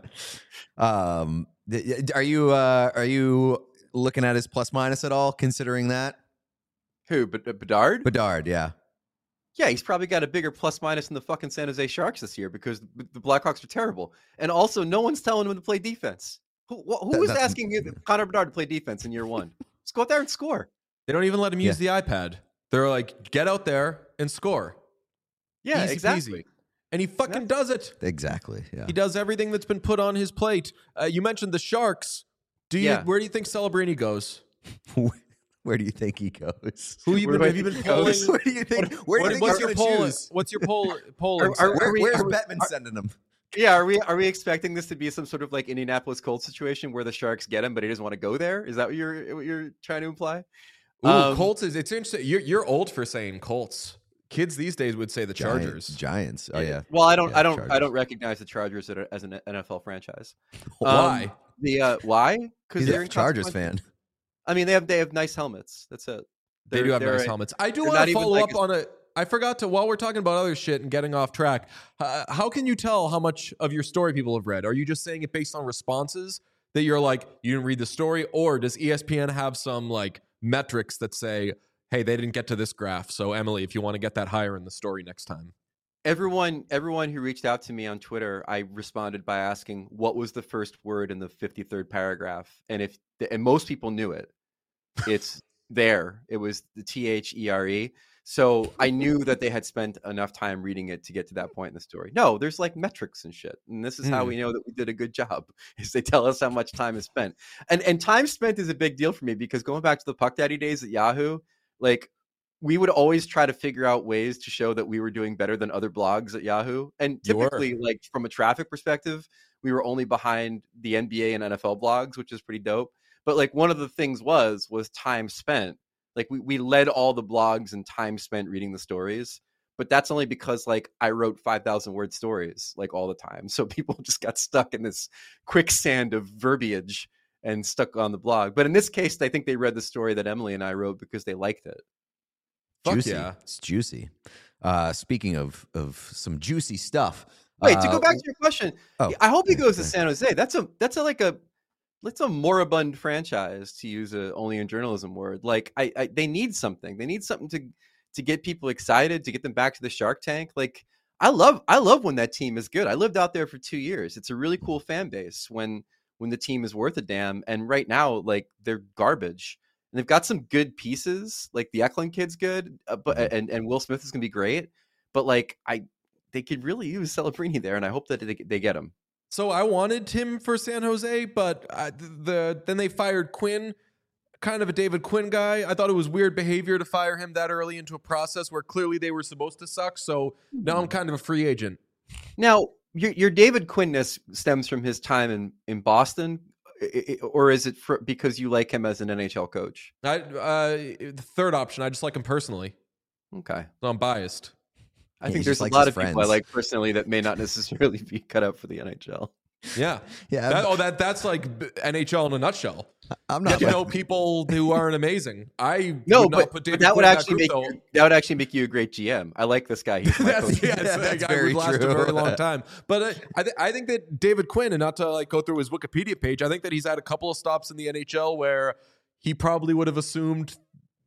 B: Um, th- are you uh, are you looking at his plus minus at all? Considering that
D: Who? But Bedard?
B: Bedard, yeah.
D: Yeah, he's probably got a bigger plus minus than the fucking San Jose Sharks this year because the the Blackhawks are terrible. And also, no one's telling him to play defense. Who, wh- who
B: That-
D: was
B: that's-
D: asking you- Connor Bedard to play defense in year one? Just go out there and score.
A: They don't even let him use the iPad. They're like, get out there and score.
D: Yeah,
A: Easy
D: exactly.
A: peasy. And he fucking
D: Yeah.
A: does it.
B: Exactly. Yeah.
A: He does everything that's been put on his plate. Uh, you mentioned the Sharks. Do you?
D: Yeah.
A: Where do you think Celebrini goes?
B: Where do you think he goes?
A: Who you
D: Where
A: been,
D: do I
A: have you
D: think
A: been
D: he goes?
A: polling?
B: Where do you think? Where do
A: What-
B: you think
A: what's
B: he's
A: your
B: going to
A: poll?
B: choose?
A: What's your poll? polling?
D: Are- are-
A: say?
B: Where,
D: we-
B: where's
D: are we-
B: Bettman
D: are-
B: sending him?
D: Yeah, are we are we expecting this to be some sort of like Indianapolis Colts situation where the Sharks get him, but he doesn't want to go there? Is that what you're what you're trying to imply?
A: Ooh,
D: Um,
A: Colts is. It's interesting. You're you're old for saying Colts. Kids these days would say the
B: Giant-
A: Chargers.
B: Giants. Oh yeah.
D: Well, I don't,
B: Yeah,
D: I don't, I
B: Chargers.
D: don't recognize the Chargers as a- as an N F L franchise.
A: Why?
D: Um, the uh, why? Because
B: He's
D: they're
B: a Chargers
D: inconsequential.
B: fan.
D: I mean, they have they have nice helmets. That's it.
A: They
D: They're-
A: do have
D: they're
A: nice
D: a-
A: helmets. I do
D: they're
A: want
D: not
A: to
D: even
A: follow
D: like
A: up
D: a-
A: on it. I forgot to, while we're talking about other shit and getting off track, uh, how can you tell how much of your story people have read? Are you just saying it based on responses that you're like, you didn't read the story? Or does E S P N have some like metrics that say, hey, they didn't get to this graph. So Emily, if you want to get that higher in the story next time.
D: Everyone, everyone who reached out to me on Twitter, I responded by asking what was the first word in the fifty-third paragraph, and if and most people knew it. It's there. It was the T H E R E. So I knew that they had spent enough time reading it to get to that point in the story. No, there's like metrics and shit, and this is how
A: Hmm.
D: we know that we did a good job. Is they tell us how much time is spent, and and time spent is a big deal for me because going back to the Puck Daddy days at Yahoo, like. We would always try to figure out ways to show that we were doing better than other blogs at Yahoo. And
A: You were.
D: typically, like from a traffic perspective, we were only behind the N B A and N F L blogs, which is pretty dope. But like one of the things was was time spent. Like we, we led all the blogs and time spent reading the stories. But that's only because like I wrote five thousand word stories like all the time. So people just got stuck in this quicksand of verbiage and stuck on the blog. But in this case, I think they read the story that Emily and I wrote because they liked it.
A: Fuck
B: Juicy.
A: yeah.
B: It's juicy. Uh, speaking of of some juicy stuff.
D: Wait, to
B: uh,
D: go back to your question,
B: oh,
D: I hope he
B: yeah,
D: goes to
B: yeah.
D: San Jose. That's a that's a like a that's a moribund franchise, to use a only in journalism word. Like I, I they need something. They need something to to get people excited, to get them back to the Shark Tank. Like I love I love when that team is good. I lived out there for two years. It's a really cool fan base when when the team is worth a damn. And right now, like they're garbage. And they've got some good pieces, like the Eklund kid's good, uh, but
B: Mhm.
D: and and Will Smith is gonna be great. But like I, they could really use Celebrini there, and I hope that they, they get him.
A: So I wanted him for San Jose, but I, the then they fired Quinn, kind of a David Quinn guy. I thought it was weird behavior to fire him that early into a process where clearly they were supposed to suck. So now I'm kind of a free agent.
D: Now, your your David Quinn-ness stems from his time in in Boston, i- i- or is it for, because you like him as an N H L coach?
A: I, uh, the third option, I just like him personally,
D: Okay,
A: so I'm biased.
D: I
B: Yeah,
D: think
B: he
D: there's
B: just
D: a
B: likes
D: lot
B: his
D: of people I
B: friends.
D: like personally that may not necessarily be cut out for the N H L.
A: Yeah,
B: Yeah,
A: that,
B: I'm,
A: oh, that that's like b- N H L in a nutshell.
B: I'm
A: Get
B: not.
A: to
B: like-
A: know people who aren't amazing. I
D: No,
A: would not
D: but,
A: put
D: but
A: David
D: that would
A: Quinn in
D: actually make
A: group,
D: you,
A: though.
D: that would actually make you a great G M. I like this guy. He's my
A: That's,
D: coach.
A: yes,
B: Yeah, that's
A: I
B: very
A: would last
B: true.
A: a very long time. But uh, I, th- I think that David Quinn, and not to like go through his Wikipedia page, I think that he's had a couple of stops in the N H L where he probably would have assumed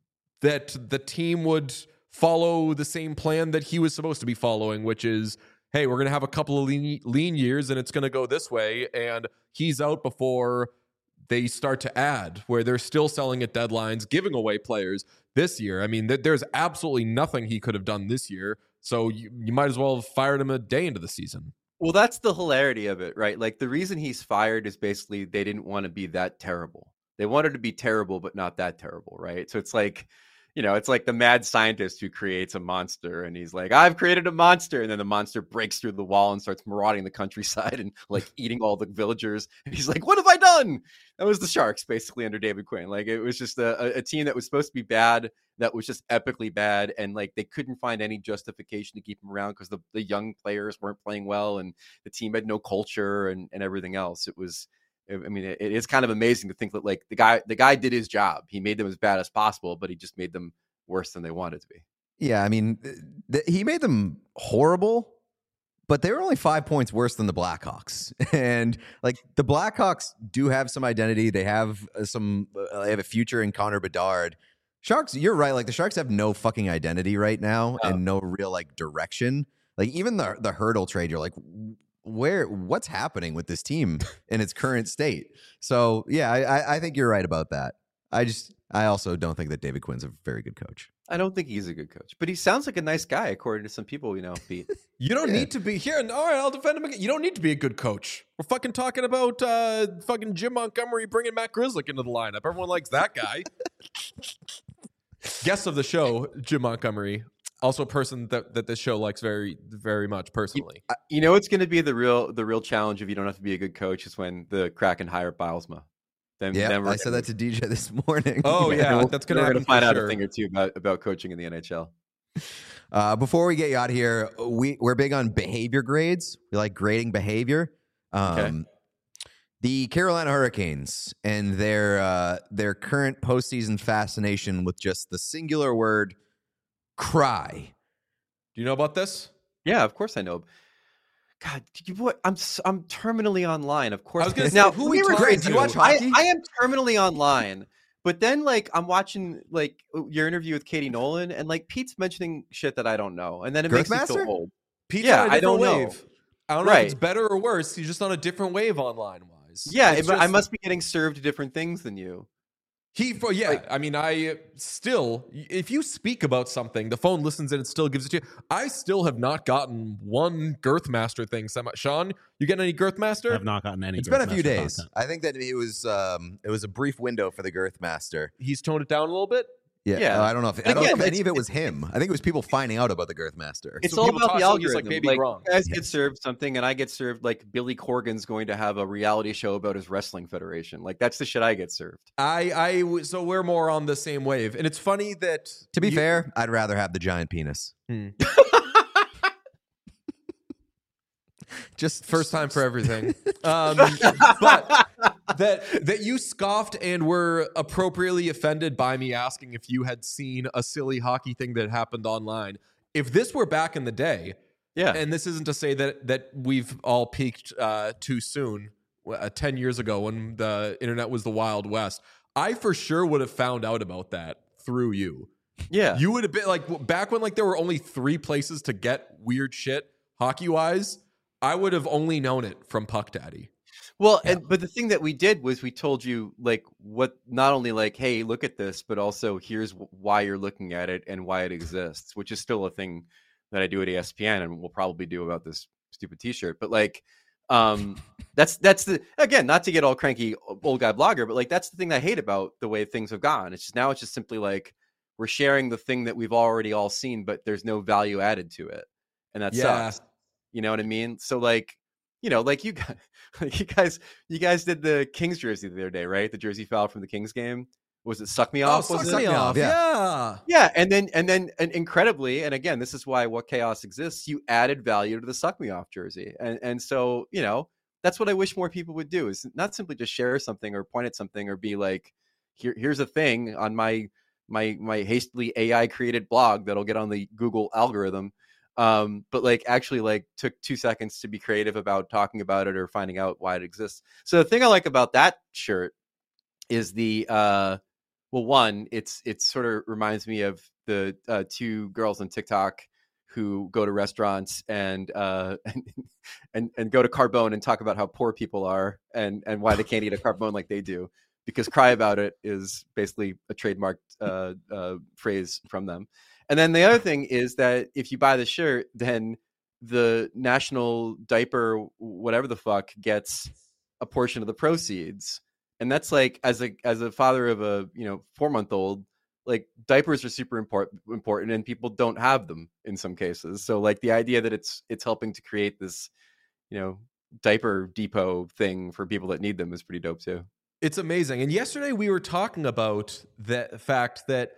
A: that the team would follow the same plan that he was supposed to be following, which is, hey, we're going to have a couple of lean, lean years and it's going to go this way. And he's out before they start to add, where they're still selling at deadlines, giving away players this year. I mean, th- there's absolutely nothing he could have done this year. So you, you might as well have fired him a day into the season.
D: Well, that's the hilarity of it, right? Like the reason he's fired is basically they didn't want to be that terrible. They wanted to be terrible, but not that terrible, right? So it's like, you know, it's like the mad scientist who creates a monster and he's like, I've created a monster. And then the monster breaks through the wall and starts marauding the countryside and like eating all the villagers. And he's like, what have I done? That was the Sharks basically under David Quinn. Like it was just a, a team that was supposed to be bad, that was just epically bad. And like they couldn't find any justification to keep him around because the, the young players weren't playing well and the team had no culture and, and everything else. It was, I mean, it, it is kind of amazing to think that like the guy, the guy did his job. He made them as bad as possible, but he just made them worse than they wanted to be.
B: Yeah, I mean, th- th- he made them horrible, but they were only five points worse than the Blackhawks. And like the Blackhawks do have some identity. They have uh, some, uh, they have a future in Connor Bedard. Sharks, you're right. Like the Sharks have no fucking identity right now
D: Oh.
B: and no real like direction. Like even the the hurdle trade, you're like, where, what's happening with this team in its current state? So yeah, I, I, I think you're right about that. I just, I also don't think that David Quinn's a very good coach.
D: I don't think he's a good coach, but he sounds like a nice guy, according to some people we know, Pete.
A: You don't
B: Yeah.
A: need to be here. All right, I'll defend him again. You don't need to be a good coach. We're fucking talking about uh, fucking Jim Montgomery bringing Matt Grzelcyk into the lineup. Everyone likes that guy. Guest of the show, Jim Montgomery. Also a person that, that this show likes very, very much personally.
D: Uh, You know what's going to be the real the real challenge if you don't have to be a good coach is when the Kraken hire Bilesma. Then,
B: Yeah,
D: then we're
B: I said that to D J this morning.
A: Oh,
D: then
A: yeah,
D: we'll-
A: that's gonna
D: we're
A: happen
D: find
A: for
D: out
A: sure.
D: a thing or two about, about coaching in the N H L.
B: Uh, before we get you out of here, we, we're big on behavior grades. We like grading behavior. Um,
D: Okay.
B: The Carolina Hurricanes and their uh, their current postseason fascination with just the singular word cry.
A: Do you know about this?
D: Yeah, of course I know. God, you, what? I'm s- I'm terminally online. Of course.
A: I was gonna say,
D: now,
A: who
D: let
A: we
D: me
A: talking
D: rephrase
A: to?
B: Do you watch
D: I,
B: hockey?
D: I am terminally online, but then like I'm watching like your interview with Katie Nolan, and like Pete's mentioning shit that I don't know, and then it makes me
B: Girthmaster?
D: feel old.
A: Pete's
D: Yeah,
A: on a
D: I
A: different
D: don't know.
A: wave. I don't know if
D: Right.
A: it's better or worse. He's just on a different wave online wise.
D: Yeah,
A: It's
D: it, I
A: just-
D: must be getting served different things than you.
A: He, for, yeah,
D: Like-
A: I mean, I uh, still, if you speak about something, the phone listens and it still gives it to you. I still have not gotten one Girthmaster thing. Semi- Sean, you get any
C: I
A: Girthmaster?
C: have not gotten any.
B: It's been a few
C: Girthmaster
B: days.
C: content.
B: I think that it was um, it was a brief window for the Girthmaster.
A: He's toned it down a little bit.
B: Yeah,
D: Yeah.
B: uh, I don't know if I don't
D: Again,
B: know if any
D: it's-
B: of it was him. I think it was people finding out about the Girthmaster.
D: It's
A: So
D: all
A: people
D: about the
A: talk- so he's like
D: algorithm.
A: Baby
D: Like,
A: Gronk.
D: you guys get
B: Yes.
D: served something, and I get served like Billy Corgan's going to have a reality show about his wrestling federation. Like that's the shit I get served.
A: I, I, w- so we're more on the same wave. And it's funny that.
B: To be
A: you-
B: fair, I'd rather have the giant penis.
A: Hmm.
B: Just
A: First time for everything. Um, but that that you scoffed and were appropriately offended by me asking if you had seen a silly hockey thing that happened online. If this were back in the day,
D: Yeah.
A: and this isn't to say that that we've all peaked uh, too soon, uh, ten years ago when the internet was the Wild West, I for sure would have found out about that through you.
D: yeah.
A: You would have been like w- back when like there were only three places to get weird shit hockey wise. I would have only known it from Puck Daddy.
D: Well,
B: Yeah.
D: and but the thing that we did was we told you like what not only like, hey, look at this, but also here's w- why you're looking at it and why it exists, which is still a thing that I do at E S P N and we'll probably do about this stupid T-shirt. But like, um, that's that's the again, not to get all cranky old guy blogger, but like that's the thing I hate about the way things have gone. It's just now it's just simply like we're sharing the thing that we've already all seen, but there's no value added to it, and that
A: Yeah.
D: sucks. You know what I mean? So like, you know, like you guys, like you guys, you guys did the Kings jersey the other day, right? The jersey foul from the Kings game. Was it Suck Me Off?
A: oh,
D: was
A: suck
D: it?
A: me off.
B: Yeah.
A: Yeah.
D: Yeah, and then and then and incredibly, and again, this is why What Chaos exists. You added value to the Suck Me Off jersey, and and so you know that's what I wish more people would do is not simply just share something or point at something or be like, here here's a thing on my my my hastily A I created blog that'll get on the Google algorithm. Um, but like actually like took two seconds to be creative about talking about it or finding out why it exists. So the thing I like about that shirt is the uh well, one, it's it sort of reminds me of the uh, two girls on TikTok who go to restaurants and uh and, and and go to Carbone and talk about how poor people are and and why they can't eat a Carbone like they do, because cry about it is basically a trademarked uh, uh, phrase from them. And then the other thing is that if you buy the shirt, then the national diaper, whatever the fuck, gets a portion of the proceeds. And that's like, as a as a father of a you know four month old, like diapers are super important important, and people don't have them in some cases. So like the idea that it's it's helping to create this, you know, diaper depot thing for people that need them is pretty dope too.
A: It's amazing. And yesterday we were talking about the fact that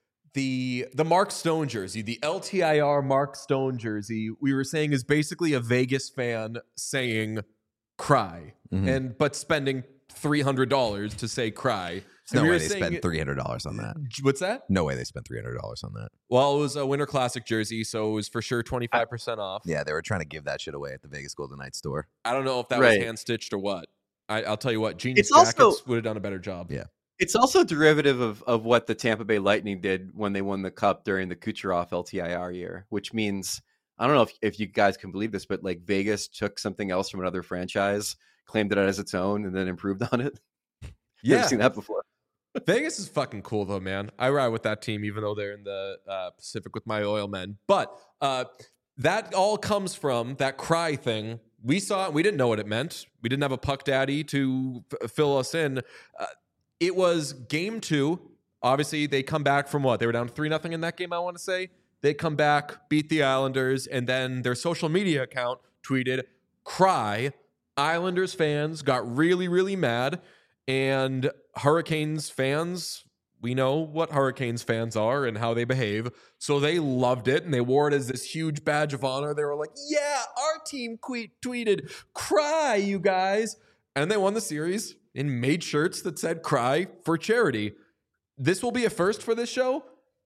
A: the the Mark Stone jersey, the L T I R Mark Stone jersey, we were saying is basically a Vegas fan saying cry
B: Mhm.
A: and but spending three hundred dollars to say cry.
B: No
A: we
B: way
A: were
B: they
A: saying-
B: spent three hundred dollars on that.
A: What's that?
B: No way they spent three hundred dollars on that.
A: Well, it was a Winter Classic jersey, so it was for sure twenty-five percent off.
B: Yeah, they were trying to give that shit away at the Vegas Golden Knights store.
A: I don't know if that
D: Right.
A: was hand stitched or what. I, I'll tell you what, Genius
D: It's also-
A: Jackets would have done a better job.
B: Yeah.
D: It's also derivative of, of what the Tampa Bay Lightning did when they won the Cup during the Kucherov L T I R year, which means, I don't know if, if you guys can believe this, but like Vegas took something else from another franchise, claimed it as its own, and then improved on it.
A: Yeah.
D: Never seen that before.
A: Vegas is fucking cool though, man. I ride with that team, even though they're in the uh, Pacific with my oil men. But uh, that all comes from that cry thing. We saw it. We didn't know what it meant. We didn't have a puck daddy to f- fill us in. Uh, it was game two. Obviously, they come back from what? They were down three nothing in that game, I want to say. They come back, beat the Islanders, and then their social media account tweeted, cry. Islanders fans got really, really mad. And Hurricanes fans, we know what Hurricanes fans are and how they behave. So they loved it and they wore it as this huge badge of honor. They were like, yeah, our team que- tweeted, cry, you guys. And they won the series and made shirts that said cry for charity. This will be a first for this show.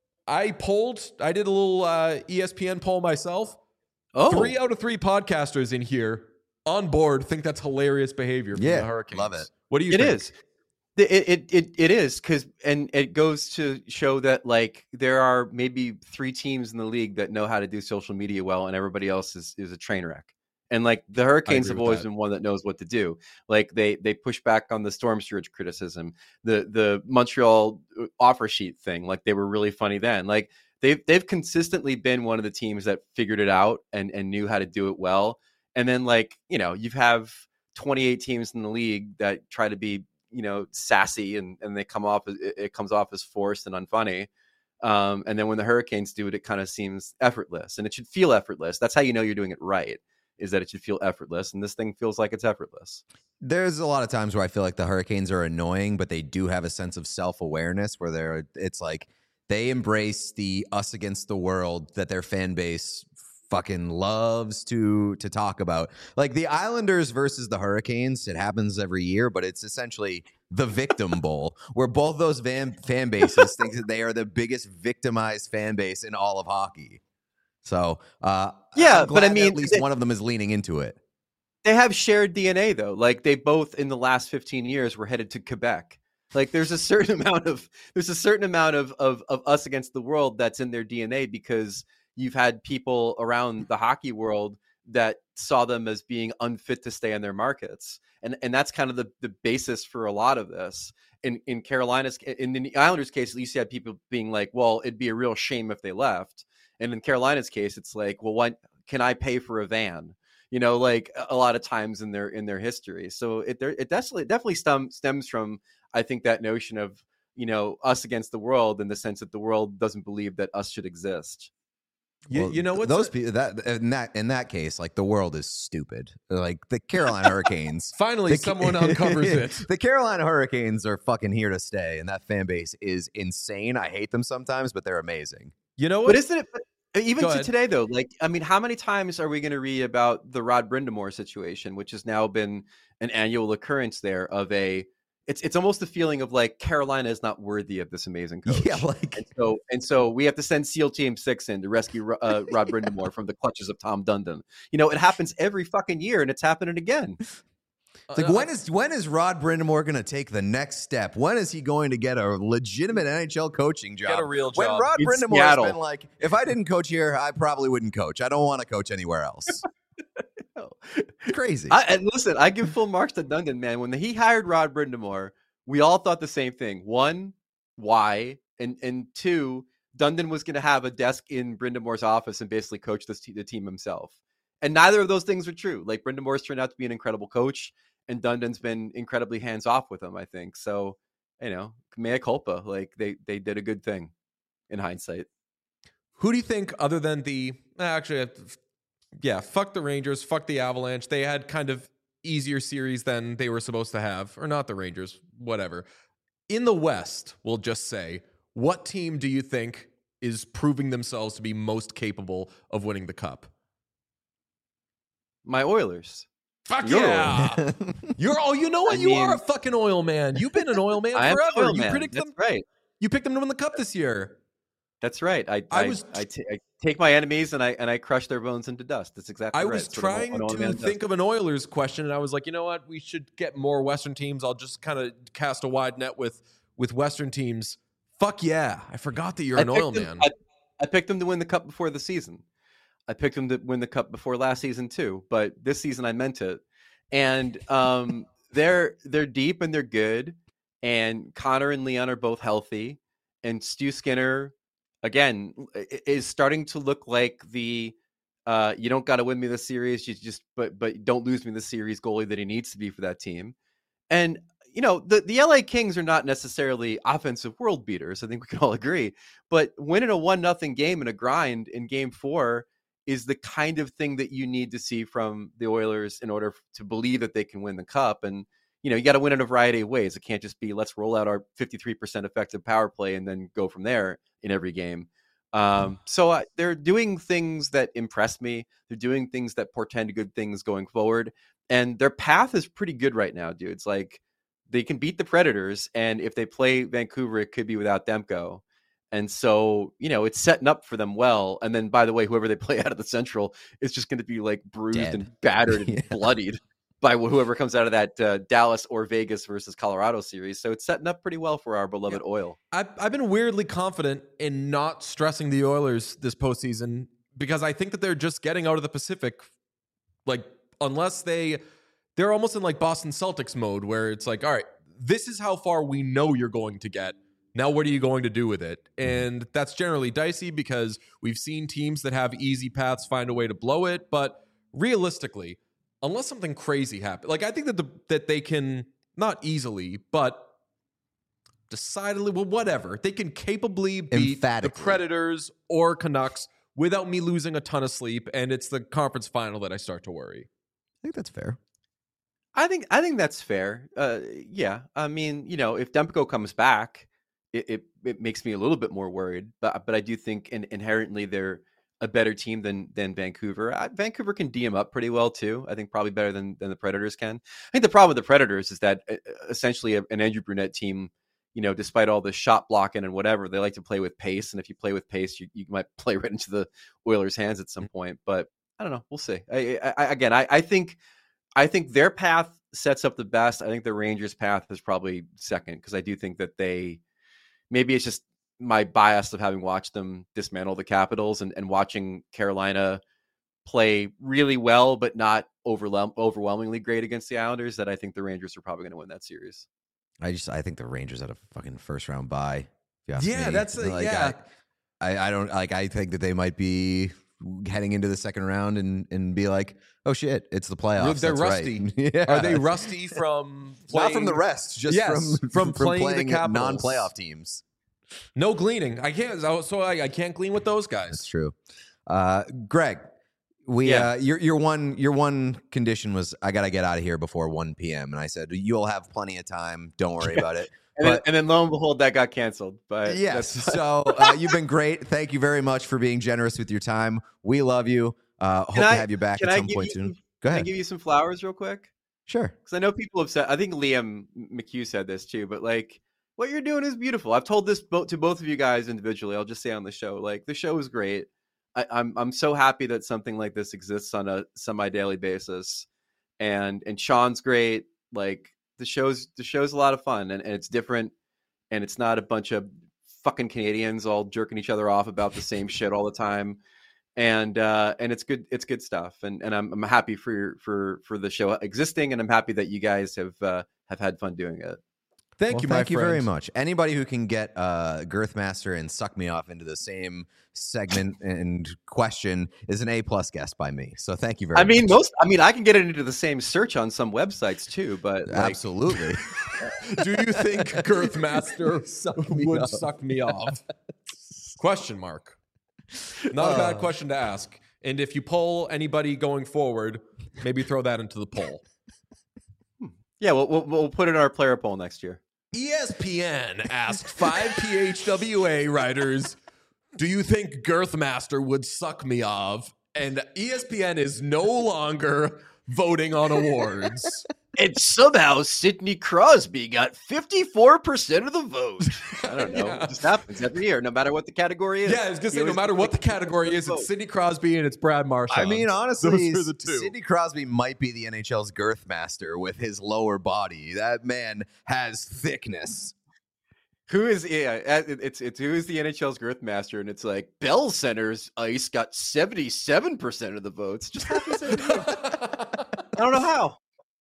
A: I polled, I did a little uh, E S P N poll myself.
D: Oh,
A: Three out of three podcasters in here on board think that's hilarious behavior from
B: Yeah,
A: the Hurricanes.
B: love it.
A: What do you
D: it
A: think?
D: is. It it it, it is because and it goes to show that like there are maybe three teams in the league that know how to do social media well, and everybody else is is a train wreck. And like the Hurricanes have
A: with
D: always
A: that.
D: been one that knows what to do. Like they they push back on the storm surge criticism, the the Montreal offer sheet thing. Like they were really funny then. Like they've they've consistently been one of the teams that figured it out and and knew how to do it well. And then like you know you have twenty-eight teams in the league that try to be you know sassy and and they come off it, it comes off as forced and unfunny. Um, and then when the Hurricanes do it, it kind of seems effortless, and it should feel effortless. That's how you know you're doing it right. Is that it should feel effortless, and this thing feels like it's effortless.
B: There's a lot of times where I feel like the Hurricanes are annoying, but they do have a sense of self-awareness where they're it's like they embrace the us against the world that their fan base fucking loves to to talk about. Like the Islanders versus the Hurricanes, it happens every year, but it's essentially the victim bowl where both those van, fan bases think that they are the biggest victimized fan base in all of hockey. So, uh,
D: Yeah,
B: I'm
D: but
B: glad
D: I
B: that
D: mean,
B: at least
D: they-
B: one of them is leaning into it.
D: They have shared D N A though. Like they both in the last fifteen years were headed to Quebec. Like there's a certain amount of there's a certain amount of of of us against the world that's in their D N A because you've had people around the hockey world that saw them as being unfit to stay in their markets. And and that's kind of the, the basis for a lot of this. In in Carolina's in the Islanders case, at least you had people being like, well, it'd be a real shame if they left. And in Carolina's case, it's like, well, what can I pay for a van? You know, like a lot of times in their in their history. So it there it definitely definitely stem, stems from I think that notion of, you know, us against the world in the sense that the world doesn't believe that us should exist.
A: You,
B: Well,
A: you know what?
B: those people that in that in that case, like the world is stupid. Like the Carolina Hurricanes.
A: Finally,
B: the,
A: someone uncovers it.
B: The Carolina Hurricanes are fucking here to stay, and that fan base is insane. I hate them sometimes, but they're amazing.
A: You know
D: But
A: what?
D: isn't it? But even
A: Go
D: to
A: ahead.
D: today, though, like I mean, how many times are we going to read about the Rod Brindamore situation, which has now been an annual occurrence there of a. It's it's almost the feeling of like Carolina is not worthy of this amazing coach.
B: Yeah, like
D: And so and so we have to send SEAL Team Six in to rescue uh, Rod Brindamore from the clutches of Tom Dundon. You know, it happens every fucking year, and it's happening again.
B: It's like when is when is Rod Brindamore going to take the next step? When is he going to get a legitimate N H L coaching job?
A: Get a real
B: When
A: job.
B: Rod
D: In
B: Brindamore
D: Seattle.
B: has been like, if I didn't coach here, I probably wouldn't coach. I don't want to coach anywhere else. It's crazy.
D: I, and listen, I give full marks to Dundon, man. When he hired Rod Brindamore, we all thought the same thing. One, why? And and two, Dundon was going to have a desk in Brindamore's office and basically coach this te- the team himself. And neither of those things are true. Like Brindamore's turned out to be an incredible coach, and Dundon's been incredibly hands off with him, I think. So, you know, mea culpa. Like they they did a good thing in hindsight.
A: Who do you think, other than the actually, yeah, fuck the Rangers, fuck the Avalanche. They had kind of easier series than they were supposed to have, or not the Rangers, whatever. In the West, we'll just say, what team do you think is proving themselves to be most capable of winning the cup?
D: My Oilers.
A: Fuck
D: You're
A: yeah. You're oh, you know what?
D: I
A: you
D: mean-
A: are a fucking oil man. You've been an oil man
D: I am
A: forever.
D: an oil
A: you
D: man.
A: predict
D: That's
A: them.
D: right.
A: You picked them to win the cup this year.
D: That's right. I
A: I
D: I,
A: was-
D: I, t- I take my enemies and I and I crush their bones into dust. That's exactly
A: I
D: right.
A: was
D: That's what an oil-
A: trying
D: an oil
A: to
D: man does.
A: think of an Oilers question, and I was like, you know what? We should get more Western teams. I'll just kind of cast a wide net with with Western teams. Fuck yeah. I forgot that you're
D: I
A: an
D: picked
A: oil
D: them-
A: man.
D: I, I picked them to win the cup before the season. I picked them to win the cup before last season too, but this season I meant it. And um, they're they're deep and they're good. And Connor and Leon are both healthy. And Stu Skinner, again, i- is starting to look like the uh, you don't got to win me the series, you just but but don't lose me the series goalie that he needs to be for that team. And you know, the, the L A Kings are not necessarily offensive world beaters. I think we can all agree. But winning a one nothing game in a grind in game four is the kind of thing that you need to see from the Oilers in order to believe that they can win the cup. And, you know, you got to win in a variety of ways. It can't just be let's roll out our fifty-three percent effective power play and then go from there in every game. Um, so uh, they're doing things that impress me. They're doing things that portend good things going forward. And their path is pretty good right now, dude. It's like they can beat the Predators. And if they play Vancouver, it could be without Demko. And so, you know, it's setting up for them well. And then, by the way, whoever they play out of the Central is just going to be like bruised
B: Dead.
D: and battered and
B: Yeah.
D: bloodied by wh- whoever comes out of that uh, Dallas or Vegas versus Colorado series. So it's setting up pretty well for our beloved Oil.
A: I've, I've been weirdly confident in not stressing the Oilers this postseason because I think that they're just getting out of the Pacific. Like, unless they, they're almost in like Boston Celtics mode where it's like, all right, this is how far we know you're going to get. Now, what are you going to do with it? And that's generally dicey because we've seen teams that have easy paths find a way to blow it. But realistically, unless something crazy happens, like I think that the that they can not easily, but decidedly, well, whatever, they can capably beat the
B: Emphatically.
A: Predators or Canucks without me losing a ton of sleep. And it's the conference final that I start to worry.
B: I think that's fair.
D: I think I think that's fair. Uh, yeah, I mean, you know, if Demko comes back, it, it it makes me a little bit more worried. But but I do think in, inherently they're a better team than than Vancouver. Uh, Vancouver can D M up pretty well too. I think probably better than than the Predators can. I think the problem with the Predators is that uh, essentially a, an Andrew Brunette team, you know, despite all the shot blocking and whatever, they like to play with pace. And if you play with pace, you, you might play right into the Oilers' hands at some point. But I don't know. We'll see. I, I, again, I, I think. I think their path sets up the best. I think the Rangers' path is probably second because I do think that they maybe it's just my bias of having watched them dismantle the Capitals and, and watching Carolina play really well, but not overwhelm, overwhelmingly great against the Islanders that I think the Rangers are probably going to win that series.
B: I just I think the Rangers had a fucking first round bye. if you ask
A: Yeah,
B: me.
A: that's a-
B: Like,
A: yeah.
B: I, I I don't like. I think that they might be heading into the second round and and be like, oh shit, it's the playoffs.
A: They're
B: That's right."
A: rusty.
B: Yeah.
A: Are they rusty from
B: Not from the
A: playing-
B: rest, just
A: Yes,
B: from
A: from playing the Capitals.
B: non-playoff teams.
A: No gleaning. I can't. So I, I can't glean with those
B: That's
A: guys.
B: true. Uh, Greg, we
D: Yeah.
B: uh, your your one your one condition was I gotta get out of here before one p.m. and I said you'll have plenty of time. Don't worry about it.
D: And, then,
B: But-
D: and then lo and behold, that got canceled. But
B: Yes.
D: that's fine.
B: So uh, you've been great. Thank you very much for being generous with your time. We love you. Uh, hope
D: Can
B: to
D: I-
B: have you back
D: can
B: at
D: I
B: some
D: give
B: point
D: you
B: soon.
D: some-
B: Go
D: Can I
B: ahead.
D: give you some flowers real quick?
B: Sure.
D: Because I know people have said, I think Liam McHugh said this too, but like what you're doing is beautiful. I've told this bo- to both of you guys individually. I'll just say on the show, like the show is great. I, I'm I'm so happy that something like this exists on a semi daily basis, and and Sean's great. Like the show's the show's a lot of fun, and, and it's different, and it's not a bunch of fucking Canadians all jerking each other off about the same shit all the time. And uh, and it's good. It's good stuff. And and I'm I'm happy for your, for for the show existing, and I'm happy that you guys have uh, have had fun doing it.
A: Thank
B: Well,
A: you, my
B: thank you very
A: friend.
B: much. Anybody who can get uh, Girthmaster and Suck Me Off into the same segment and question is an A plus guest by me. So thank you very
D: I
B: much.
D: mean, most. I mean, I can get it into the same search on some websites too. But like,
B: Absolutely.
A: Do you think Girthmaster
B: Suck me
A: would
B: off.
A: suck me off? Question mark. Not a bad
B: Uh.
A: question to ask. And if you poll anybody going forward, maybe throw that into the poll.
D: yeah, we'll, we'll we'll put it in our player poll next year.
A: E S P N asked five P H W A writers, do you think Girthmaster would suck me off? And E S P N is no longer voting on awards.
D: And somehow Sidney Crosby got fifty-four percent of the vote. I don't know.
A: Yeah.
D: It just happens every year, no matter what the category is.
A: Yeah, I was gonna
D: He
A: say, no
D: always
A: matter
D: gets
A: what the
D: like fifty
A: category
D: percent
A: is,
D: of the
A: it's
D: vote.
A: Sidney Crosby and it's Brad Marchand.
B: I mean, honestly,
A: Those are the two.
B: Sidney Crosby might be the N H L's girth master with his lower body. That man has thickness.
D: Who is yeah? uh, It's it's who is the N H L's girth master, and it's like Bell Center's ice got seventy-seven percent of the votes. Just happens every year. I don't know how.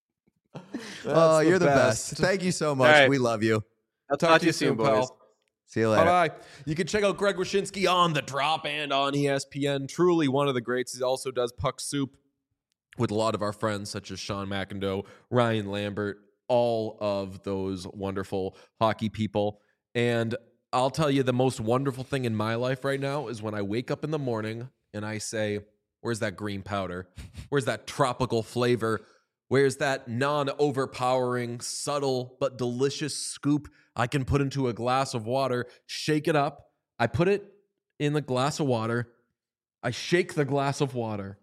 B: Oh, you're the best. Thank you so much.
D: right.
B: We love you.
D: I'll
A: Talk to you soon,
D: boys.
A: pal.
B: See you later.
A: Bye bye. You can check out Greg Wyshynski on The Drop and on E S P N. Truly one of the greats. He also does Puck Soup with a lot of our friends, such as Sean McIndoe, Ryan Lambert, all of those wonderful hockey people. And I'll tell you, the most wonderful thing in my life right now is when I wake up in the morning and I say, where's that green powder? Where's that tropical flavor? Where's that non-overpowering, subtle, but delicious scoop I can put into a glass of water, shake it up. I put it in the glass of water. I shake the glass of water.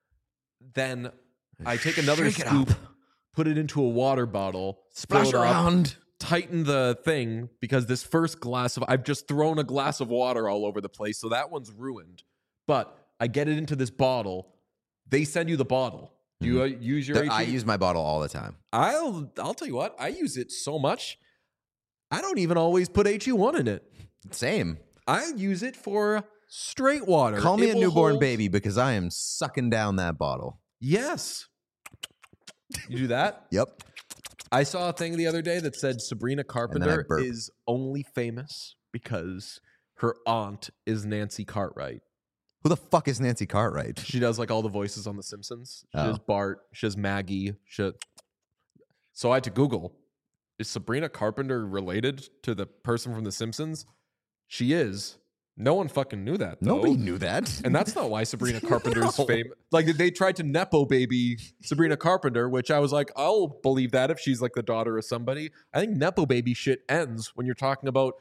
A: Then I take another
B: Shake it
A: scoop,
B: up.
A: put it into a water bottle,
B: Splash
A: fill it up,
B: around.
A: tighten the thing because this first glass of, I've just thrown a glass of water all over the place. So that one's ruined. But I get it into this bottle. They send you the bottle. Do you uh, use your
B: The-
A: H E?
B: I use my bottle all the time.
A: I'll I'll tell you what, I use it so much. I don't even always put H E one in it.
B: Same.
A: I use it for straight water.
B: Call me
A: It
B: a
A: will
B: newborn
A: hold-
B: baby because I am sucking down that bottle.
A: Yes. You do that?
B: Yep.
A: I saw a thing the other day that said Sabrina Carpenter
B: burp.
A: is only famous because her aunt is Nancy Cartwright.
B: Who the fuck is Nancy Cartwright?
A: She does like all the voices on The Simpsons. She
B: Oh.
A: does Bart. She does Maggie. She... So I had to Google, is Sabrina Carpenter related to the person from The Simpsons? She is. No one fucking knew that, though.
B: Nobody knew that.
A: And that's not why Sabrina Carpenter's
B: No.
A: famous. Like, they tried to Nepo baby Sabrina Carpenter, which I was like, I'll believe that if she's like the daughter of somebody. I think Nepo baby shit ends when you're talking about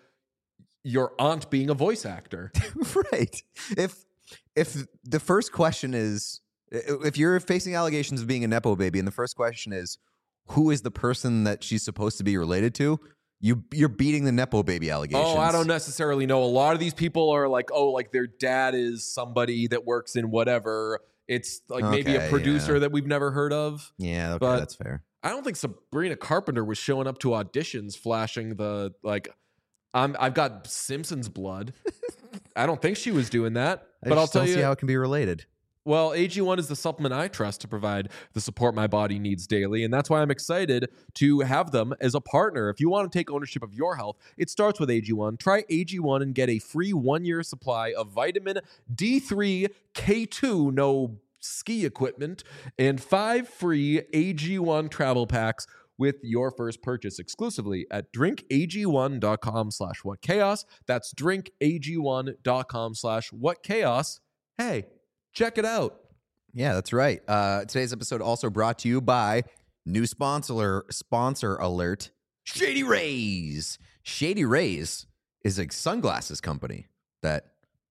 A: your aunt being a voice actor.
B: Right. If if the first question is if you're facing allegations of being a nepo baby and the first question is who is the person that she's supposed to be related to, you you're beating the nepo baby allegations.
A: Oh, I don't necessarily know. A lot of these people are like, oh, like their dad is somebody that works in whatever. It's like maybe a
B: Okay,
A: producer
B: yeah.
A: that we've never heard of.
B: Yeah, okay,
A: But-
B: that's fair.
A: I don't think Sabrina Carpenter was showing up to auditions flashing the like I'm I've got Simpsons blood. I don't think she was doing that.
B: I
A: But I'll
B: just
A: tell
B: don't
A: you,
B: see how it can be related.
A: well, A G one is the supplement I trust to provide the support my body needs daily. And that's why I'm excited to have them as a partner. If you want to take ownership of your health, it starts with A G one. Try A G one and get a free one-year supply of vitamin D three, K two, no ski equipment, and five free A G one travel packs with your first purchase exclusively at drinkag1.com slash what chaos. That's drinkag1.com slash what chaos. Hey, check it out.
B: Yeah, that's right. Uh, today's episode also brought to you by new sponsor sponsor alert, Shady Rays. Shady Rays is a sunglasses company that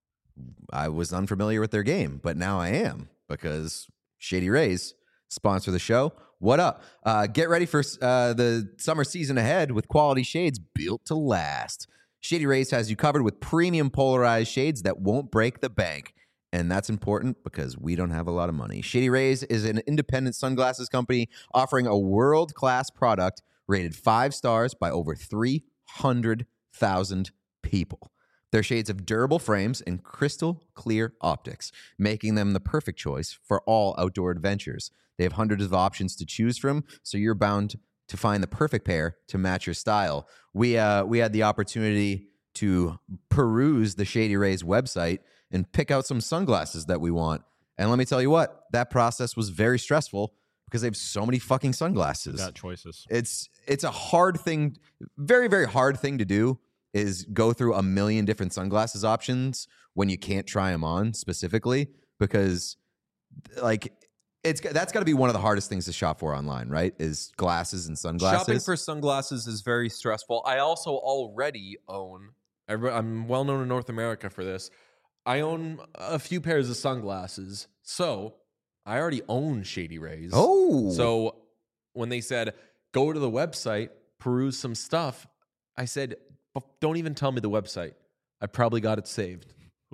B: I was unfamiliar with their game, but now I am because Shady Rays sponsor the show. What up? Uh, get ready for uh, the summer season ahead with quality shades built to last. Shady Rays has you covered with premium polarized shades that won't break the bank. And that's important because we don't have a lot of money. Shady Rays is an independent sunglasses company offering a world-class product rated five stars by over three hundred thousand people. Their shades have durable frames and crystal clear optics, making them the perfect choice for all outdoor adventures. They have hundreds of options to choose from, so you're bound to find the perfect pair to match your style. We uh, we had the opportunity to peruse the Shady Rays website and pick out some sunglasses that we want. And let me tell you what, that process was very stressful because they have so many fucking sunglasses.
C: Got choices.
B: It's it's a hard thing, very, very hard thing to do is go through a million different sunglasses options when you can't try them on specifically because like it's that's got to be one of the hardest things to shop for online, right? Is glasses and sunglasses.
A: Shopping for sunglasses is very stressful. I also already own, I'm well known in North America for this. I own a few pairs of sunglasses. So I already own Shady Rays.
B: Oh,
A: So when they said, go to the website, peruse some stuff, I said, don't even tell me the website. I probably got it saved.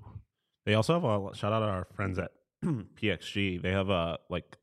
C: They also have a shout out to our friends at P X G. They have a like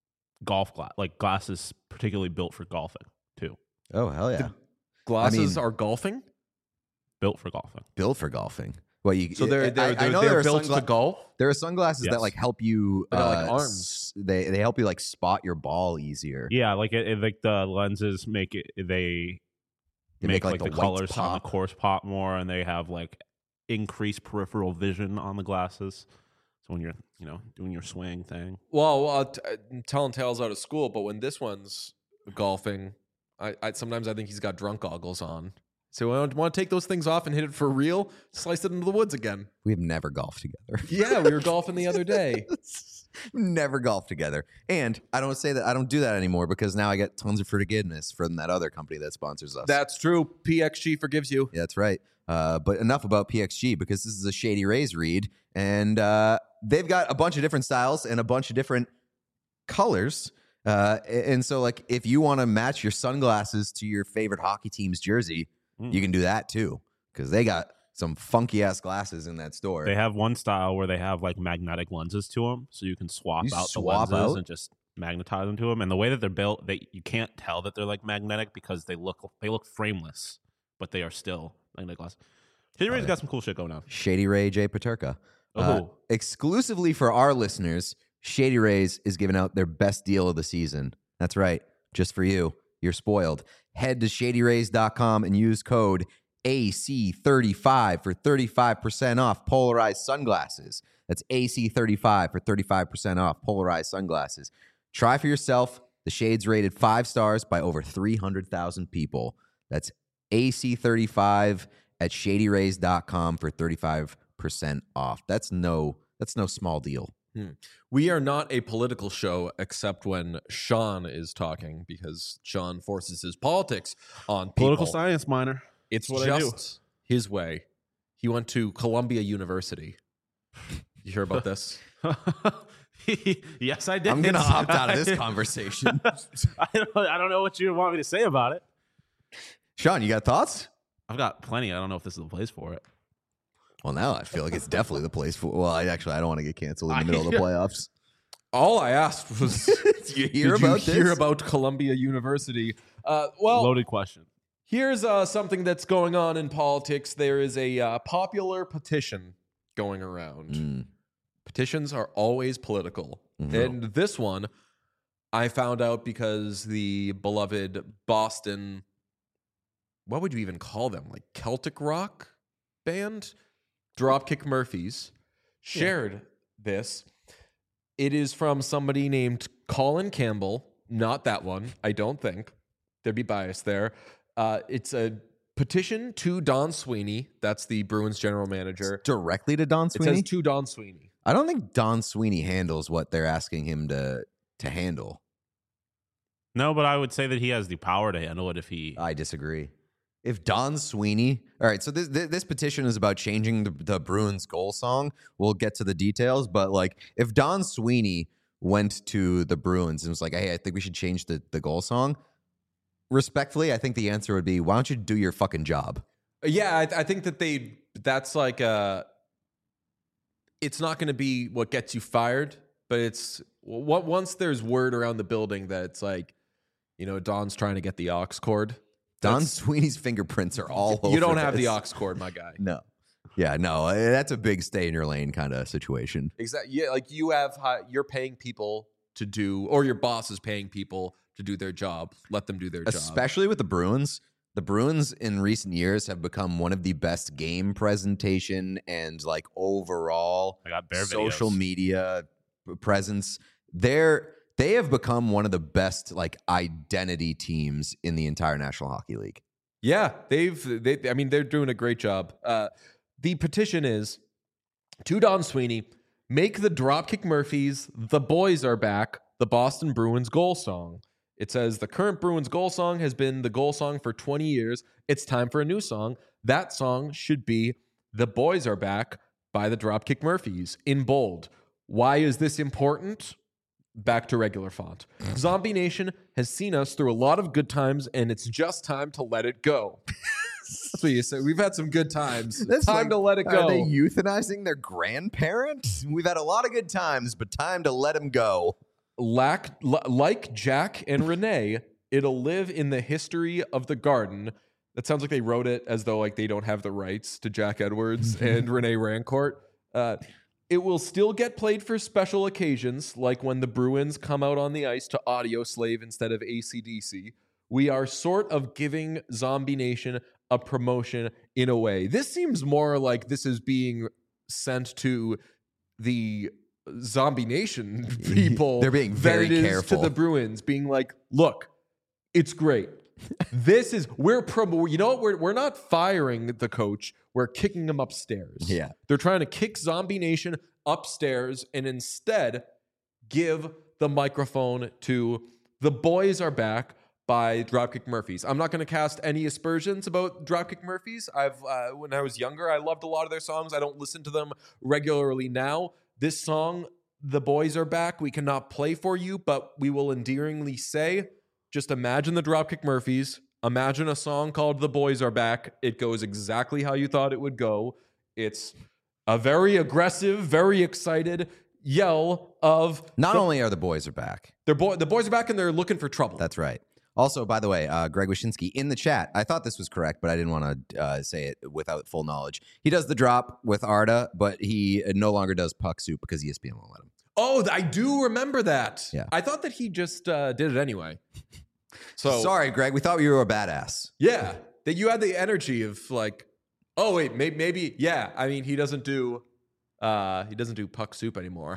C: golf glass, like glasses particularly built for golfing too.
B: oh hell yeah,
A: Glasses
B: mean-
A: are golfing?
C: Built for golfing.
B: built for golfing. Well, you
A: So they're,
B: I-
A: they're,
B: I,
A: they're,
B: know
A: they're
B: there are
A: built
B: sungla-
A: to golf?
B: There are sunglasses
C: Yes.
B: that like help you.
A: They got, like,
B: uh,
A: arms.
B: s- They they help you like spot your ball easier.
C: Yeah, like it, it- like the lenses make it. They,
B: They
C: make,
B: make, like,
C: like,
B: the
C: the,
B: whites
C: colors on the
B: pop.
C: course pop more, and they have like increased peripheral vision on the glasses. So when you're you know doing your swing thing,
A: Well, well t- I'm telling tales out of school, but when this one's golfing, I, I sometimes I think he's got drunk goggles on. So I want to take those things off and hit it for real, slice it into the woods again.
B: We've never golfed together.
A: Yeah, we were golfing the other day.
B: Never golfed together. And I don't say that I don't do that anymore because now I get tons of forgiveness from that other company that sponsors us.
A: That's true. P X G forgives you.
B: Yeah, that's right. Uh, but enough about P X G because this is a Shady Rays read, and uh, they've got a bunch of different styles and a bunch of different colors. Uh, and so, like, if you want to match your sunglasses to your favorite hockey team's jersey,
C: Mm.
B: you can do that too because they got some funky ass glasses in that store.
C: they have one style where they have like magnetic lenses to them, so you can swap
B: You
C: out
B: swap
C: the lenses
B: out?
C: and just magnetize them to them. And the way that they're built, they you can't tell that they're like magnetic because they look they look frameless, but they are still magnetic glasses. Shady Ray's
B: yeah.
C: got some cool shit going on.
B: Shady Ray J. Paterka.
C: Oh,
B: Uh, exclusively for our listeners, Shady Rays is giving out their best deal of the season. That's right. Just for you. You're spoiled. Head to shady rays dot com and use code A C thirty-five for thirty-five percent off polarized sunglasses. That's A C thirty-five for thirty-five percent off polarized sunglasses. Try for yourself. The shades rated five stars by over three hundred thousand people. That's A C thirty-five at shady rays dot com for thirty-five percent off. That's no that's no small deal.
A: We are not a political show except when Sean is talking because Sean forces his politics on people.
C: Political science minor.
A: It's
C: what I do.
A: just his way. He went to Columbia University. You hear about this?
C: Yes, I did.
B: I'm going to opt out of this conversation.
C: I don't, I don't know what you want me to say about it.
B: Sean, you got thoughts?
C: I've got plenty. I don't know if this is the place for it.
B: Well, now I feel like it's definitely the place for. Well, I actually I don't want to get canceled in the middle of the playoffs.
A: All I asked was,
B: Did you hear
A: did
B: about
A: you hear
B: this?
A: about Columbia University? Uh, well,
C: Loaded question.
A: here's uh, something that's going on in politics. There is a uh, popular petition going around.
B: Mm.
A: Petitions are always political.
B: Mhm.
A: And this one I found out because the beloved Boston, what would you even call them? Like Celtic rock band? Dropkick Murphys shared this. It is from somebody named Colin Campbell. Not that one, I don't think. There'd be bias there. Uh, it's a petition to Don Sweeney. That's the Bruins general manager.
B: Directly to Don
A: It
B: Sweeney.
A: says to Don Sweeney.
B: I don't think Don Sweeney handles what they're asking him to to handle.
C: No, but I would say that he has the power to handle it if he.
B: I disagree. If Don Sweeney, all right, so this this, this petition is about changing the, the Bruins goal song. We'll get to the details, but like if Don Sweeney went to the Bruins and was like, "Hey, I think we should change the the goal song," respectfully, I think the answer would be, "Why don't you do your fucking job?"
A: Yeah, I, I think that they, that's like a, it's not going to be what gets you fired, but it's what once there's word around the building that it's like, you know, Don's trying to get the aux cord.
B: Don
A: That's-
B: Sweeney's fingerprints are all over.
A: You don't have the
B: this.
A: aux cord, my guy.
B: No. Yeah, no, uh, that's a big stay in your lane kind of situation.
A: Exactly. Yeah, like you have, hi- you're paying people to do, or your boss is paying people to do their job. Let them do their job.
B: Especially with the Bruins. The Bruins in recent years have become one of the best game presentation and like overall
C: I got bear
B: social
C: videos.
B: media p- presence. They're they have become one of the best like identity teams in the entire National Hockey League.
A: Yeah, they've. They, I mean, they're doing a great job. Uh, the petition is to Don Sweeney: make the Dropkick Murphys "The Boys Are Back" the Boston Bruins goal song. It says the current Bruins goal song has been the goal song for twenty years. It's time for a new song. That song should be "The Boys Are Back" by the Dropkick Murphys in bold. Why is this important? back to regular font. Zombie Nation has seen us through a lot of good times, and it's just time to let it go. That's what you say. We've had some good times.
B: That's
A: time
B: like,
A: to let it go.
B: Are they euthanizing their grandparent? We've had a lot of good times, but time to let them go.
A: Lack, l- like Jack and Renee, it'll live in the history of the garden. That sounds like they wrote it as though like they don't have the rights to Jack Edwards and Renee Rancourt. Uh, it will still get played for special occasions, like when the Bruins come out on the ice to Audio Slave instead of A C D C. We are sort of giving Zombie Nation a promotion in a way. This seems more like this is being sent to the Zombie Nation people.
B: They're being
A: than
B: very
A: it is
B: careful.
A: to the Bruins, being like, look, it's great. This is we're promo. You know what? We're we're not firing the coach. We're kicking him upstairs.
B: Yeah.
A: They're trying to kick Zombie Nation upstairs and instead give the microphone to The Boys Are Back by Dropkick Murphys. I'm not going to cast any aspersions about Dropkick Murphys. I've uh, when I was younger, I loved a lot of their songs. I don't listen to them regularly now. This song, The Boys Are Back, we cannot play for you, but we will endearingly say, just imagine the Dropkick Murphys. Imagine a song called The Boys Are Back. It goes exactly how you thought it would go. It's a very aggressive, very excited yell of
B: Not
A: the,
B: only are the boys are back.
A: they're boy, the boys are back and they're looking for trouble.
B: That's right. Also, by the way, uh, Greg Wyshynski in the chat. I thought this was correct, but I didn't want to uh, say it without full knowledge. He does the drop with Arda, but he no longer does Puck Soup because E S P N won't let him.
A: Oh, I do remember that.
B: Yeah.
A: I thought that he just uh, did it anyway. So
B: Sorry, Greg. We thought you were a badass.
A: yeah, that you had the energy of like, oh wait, maybe, maybe yeah. I mean, he doesn't do, uh, he doesn't do Puck Soup anymore.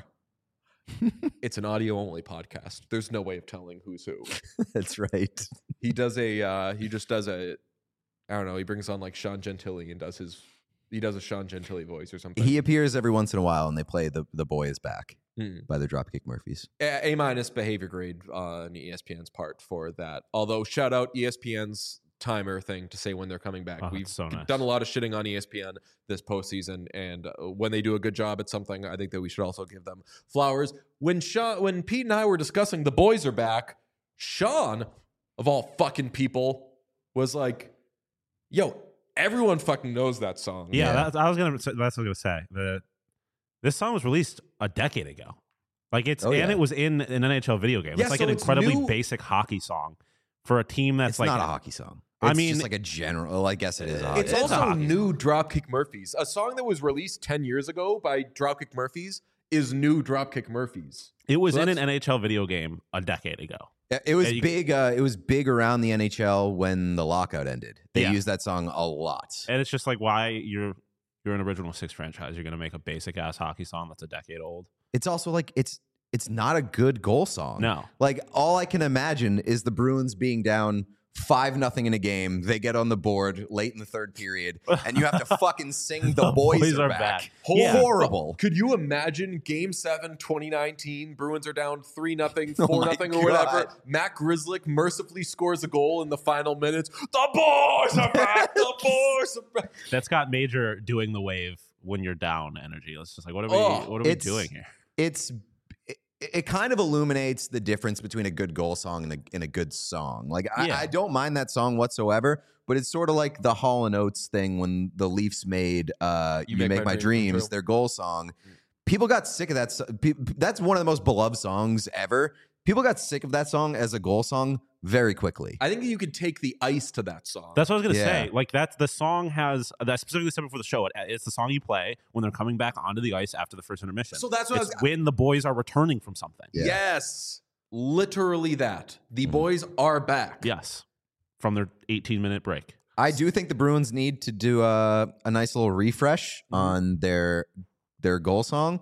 A: It's an audio only podcast. There's no way of telling who's who.
B: That's right.
A: He does a, uh, he just does a, I don't know. He brings on like Sean Gentili and does his, he does a Sean Gentili voice or something.
B: He appears every once in a while, and they play the the boy is back
A: Hmm.
B: by the Dropkick Murphys.
A: A A minus behavior grade on E S P N's part for that. Although shout out E S P N's timer thing to say when they're coming back.
C: Oh,
A: We've
C: that's so nice.
A: done a lot of shitting on E S P N this postseason, and uh, when they do a good job at something, I think that we should also give them flowers. When Sean, when Pete and I were discussing The Boys Are Back, Sean, of all fucking people, was like, "Yo, everyone fucking knows that song."
C: Yeah,
B: Yeah.
C: That's, I was gonna. That's what I was gonna say. The this song was released a decade ago. Like it's
B: Oh,
C: and
B: yeah.
C: it was in an N H L video game.
A: Yeah,
C: it's like
A: so
C: an
A: it's
C: incredibly
A: new-
C: basic hockey song for a team that's
B: It's
C: like
B: not a hockey song.
C: I
B: It's
C: mean-
B: just like a general. Well, I guess it is. A hockey
A: It's
C: It's
B: song.
C: a
A: also
C: hockey
A: new Dropkick Murphys. A song that was released ten years ago by Dropkick Murphys is new Dropkick Murphys.
C: It was
A: So
C: in an
A: that's-
C: N H L video game a decade ago.
B: Yeah, It was
C: Yeah, you-
B: big. Uh, it was big around the N H L when the lockout ended. They
C: Yeah.
B: used that song a lot.
C: And it's just like why you're you're an original six franchise. You're gonna make a basic ass hockey song that's a decade old.
B: It's also like it's it's not a good goal song.
C: No.
B: Like all I can imagine is the Bruins being down five nothing in a game. They get on the board late in the third period, and you have to fucking sing "The, boys, are, back."
C: Yeah.
B: Horrible.
A: Could you imagine Game Seven, twenty nineteen? Bruins are down three nothing, four
B: Oh my
A: nothing, or whatever.
B: God.
A: Matt Grzelcyk mercifully scores a goal in the final minutes. The boys are back. The boys are back.
C: That's got Major doing the wave when you're down energy. It's just like what are we
A: Oh,
C: what are we
B: it's-
C: doing here?
B: It's it, it kind of illuminates the difference between a good goal song and a, and a good song. Like I,
C: Yeah.
B: I don't mind that song whatsoever, but it's sort of like the Hall and Oates thing when the Leafs made uh, "You, Make, My, Dreams"
A: Come True.
B: their goal song. People got sick of that. so- pe- That's one of the most beloved songs ever. People got sick of that song as a goal song very quickly.
A: I think that you could take the ice to that song.
C: That's what I was gonna
B: Yeah.
C: say. Like that's the song has that specifically said before the show. It, it's the song you play when they're coming back onto the ice after the first intermission.
A: So that's what I
C: it's
A: was-
C: when the boys are returning from something.
B: Yeah.
A: Yes, literally that. The
B: Mhm.
A: boys are back.
C: Yes, from their eighteen minute break.
B: I do think the Bruins need to do a, a nice little refresh
A: Mm-hmm.
B: on their their goal song.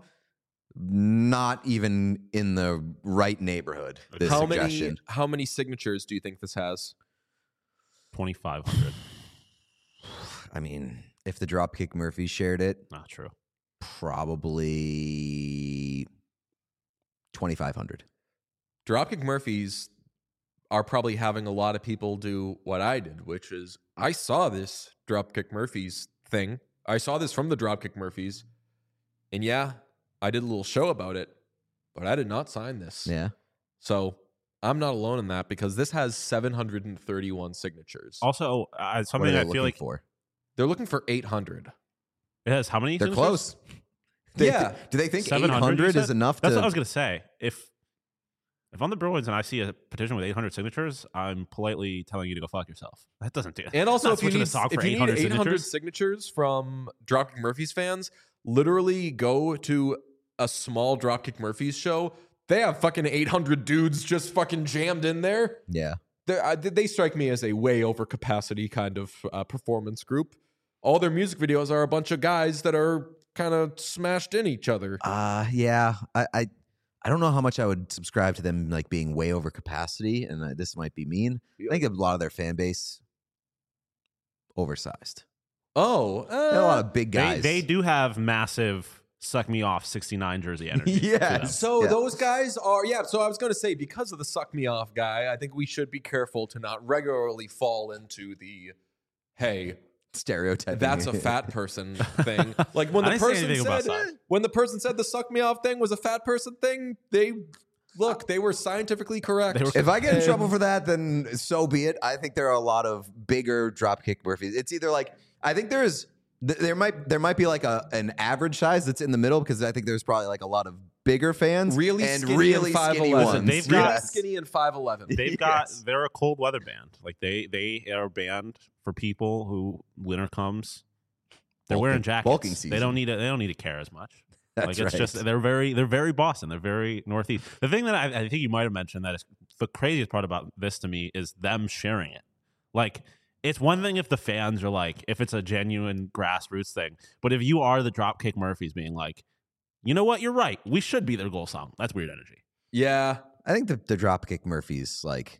B: Not even in the right neighborhood. This
A: How
B: suggestion.
A: many? How many signatures do you think this has?
C: Twenty five hundred.
B: I mean, if the Dropkick Murphys shared it,
C: Not true.
B: probably twenty-five hundred.
A: Dropkick Murphys are probably having a lot of people do what I did, which is I saw this Dropkick Murphys thing. I saw this from the Dropkick Murphys, and yeah, I did a little show about it. but I did not sign this.
B: Yeah.
A: So I'm not alone in that because this has seven hundred thirty-one signatures.
C: Also, uh,
B: What are
C: something
B: they
C: I
B: looking
C: feel like
B: for?
A: They're looking for eight hundred.
C: it has how many?
B: They're
C: signatures?
B: close. They,
A: Yeah.
B: Do they think eight
C: seven hundred
B: hundred
C: you
B: is
C: said?
B: enough
C: That's
B: to?
C: what I was gonna say. If if I'm the Bruins and I see a petition with eight hundred signatures, I'm politely telling you to go fuck yourself. That doesn't do.
A: And also,
C: not
A: if you
C: switching
A: need
C: a song for
A: if you
C: eight
A: need
C: hundred
A: eight hundred
C: signatures,
A: signatures from Dropkick Murphys fans, literally go to a small Dropkick Murphys show. They have fucking eight hundred dudes just fucking jammed in there.
B: Yeah.
A: They're, uh, they strike me as a way over capacity kind of uh, performance group. All their music videos are a bunch of guys that are kind of smashed in each other.
B: Uh yeah. I, I I don't know how much I would subscribe to them like being way over capacity, and uh, this might be mean. I think a lot of their fan base oversized.
A: Oh,
B: They're a lot
A: uh,
B: of big
C: they
B: guys.
C: they do have massive suck me off sixty-nine jersey energy. to
B: Yes.
C: them.
A: so
B: Yeah.
A: those guys are yeah. So I was going to say because of the suck me off guy, I think we should be careful to not regularly fall into the hey.
B: Stereotyping.
A: That's a fat person thing. Like when
C: I
A: the
C: didn't say
A: person
C: anything about
A: said
C: size.
A: when the person said the suck me off thing was a fat person thing, they look, they were scientifically correct.
C: They were-
B: If I get in
A: And-
B: trouble for that, then so be it. I think there are a lot of bigger Dropkick Murphys. It's either like I think there's th- there might there might be like a an average size that's in the middle because I think there's probably like a lot of bigger fans
A: really
B: and
A: skinny
B: really
A: and five
B: skinny
A: eleven.
B: ones.
C: They've
A: really
C: got-
B: Yes.
A: skinny and five eleven.
C: They've got
B: Yes.
C: they're a cold weather band. Like they they are a band for people who winter comes. They're
B: Bulking-
C: wearing jackets.
B: bulking
C: They
B: season.
C: don't need to, they don't need to care as much.
B: That's
C: like it's
B: right.
C: just they're very they're very Boston. They're very Northeast. The thing that I, I think you might have mentioned that is the craziest part about this to me is them sharing it. Like it's one thing if the fans are like if it's a genuine grassroots thing, but if you are the Dropkick Murphys being like, you know what, you're right, we should be their goal song. That's weird energy.
A: Yeah.
B: I think the, the Dropkick Murphys, like,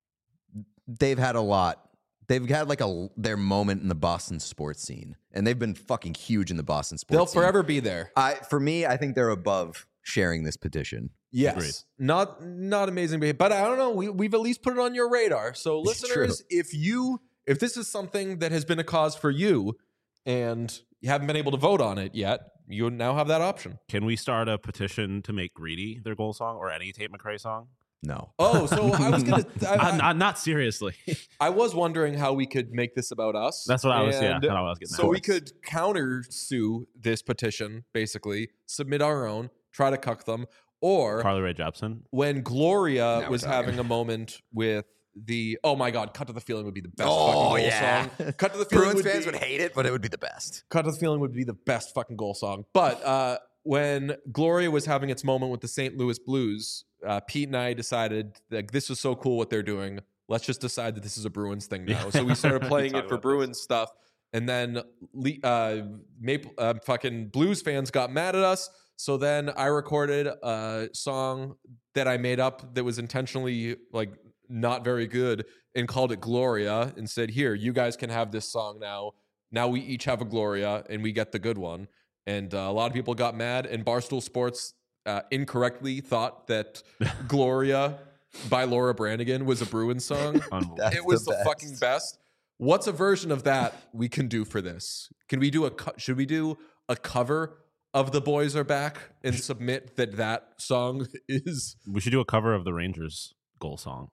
B: they've had a lot. They've had like a their moment in the Boston sports scene, and they've been fucking huge in the Boston sports
A: They'll
B: scene.
A: forever be there.
B: I, for me, I think they're above sharing this petition.
A: Yes.
C: Agreed.
A: Not not amazing behavior. But I don't know. We we've at least put it on your radar. So
B: It's
A: listeners, if you if this is something that has been a cause for you and you haven't been able to vote on it yet, you now have that option.
C: Can we start a petition to make Greedy their goal song or any Tate McRae song?
B: No.
A: Oh, so I was gonna I,
C: Uh,
A: I,
C: not, not seriously.
A: I was wondering how we could make this about us.
C: That's what I was. Yeah,
A: And
C: that's what I was getting.
A: So
C: at.
A: we could counter sue this petition, basically, submit our own, try to cuck them, or
C: Carly Rae Jepsen.
A: when Gloria
B: Now we're
A: was
B: talking.
A: having a moment with the oh my god, Cut to the Feeling would be the best
B: Oh,
A: fucking goal
B: yeah.
A: song. Cut to the Feeling
B: Bruins
A: would
B: fans
A: be,
B: would hate it, but it would be the best.
A: Cut to the Feeling would be the best fucking goal song. But uh, when Gloria was having its moment with the Saint Louis Blues, uh, Pete and I decided like this was so cool what they're doing. Let's just decide that this is a Bruins thing now. So we started playing
C: Talk
A: it for
C: about
A: Bruins stuff, and then Le- uh, Maple uh, fucking Blues fans got mad at us. So then I recorded a song that I made up that was intentionally like not very good and called it Gloria and said, "Here, you guys can have this song now. Now we each have a Gloria and we get the good one." And uh, a lot of people got mad, and Barstool Sports uh, incorrectly thought that Gloria by Laura Branigan was a Bruins song.
C: Unbelievable.
B: That's
A: It was
B: the
A: the,
B: best.
A: fucking best. What's a version of that we can do for this? Can we do a co- should we do a cover of The Boys Are Back and submit that that song is
C: We should do a cover of the Rangers goal song.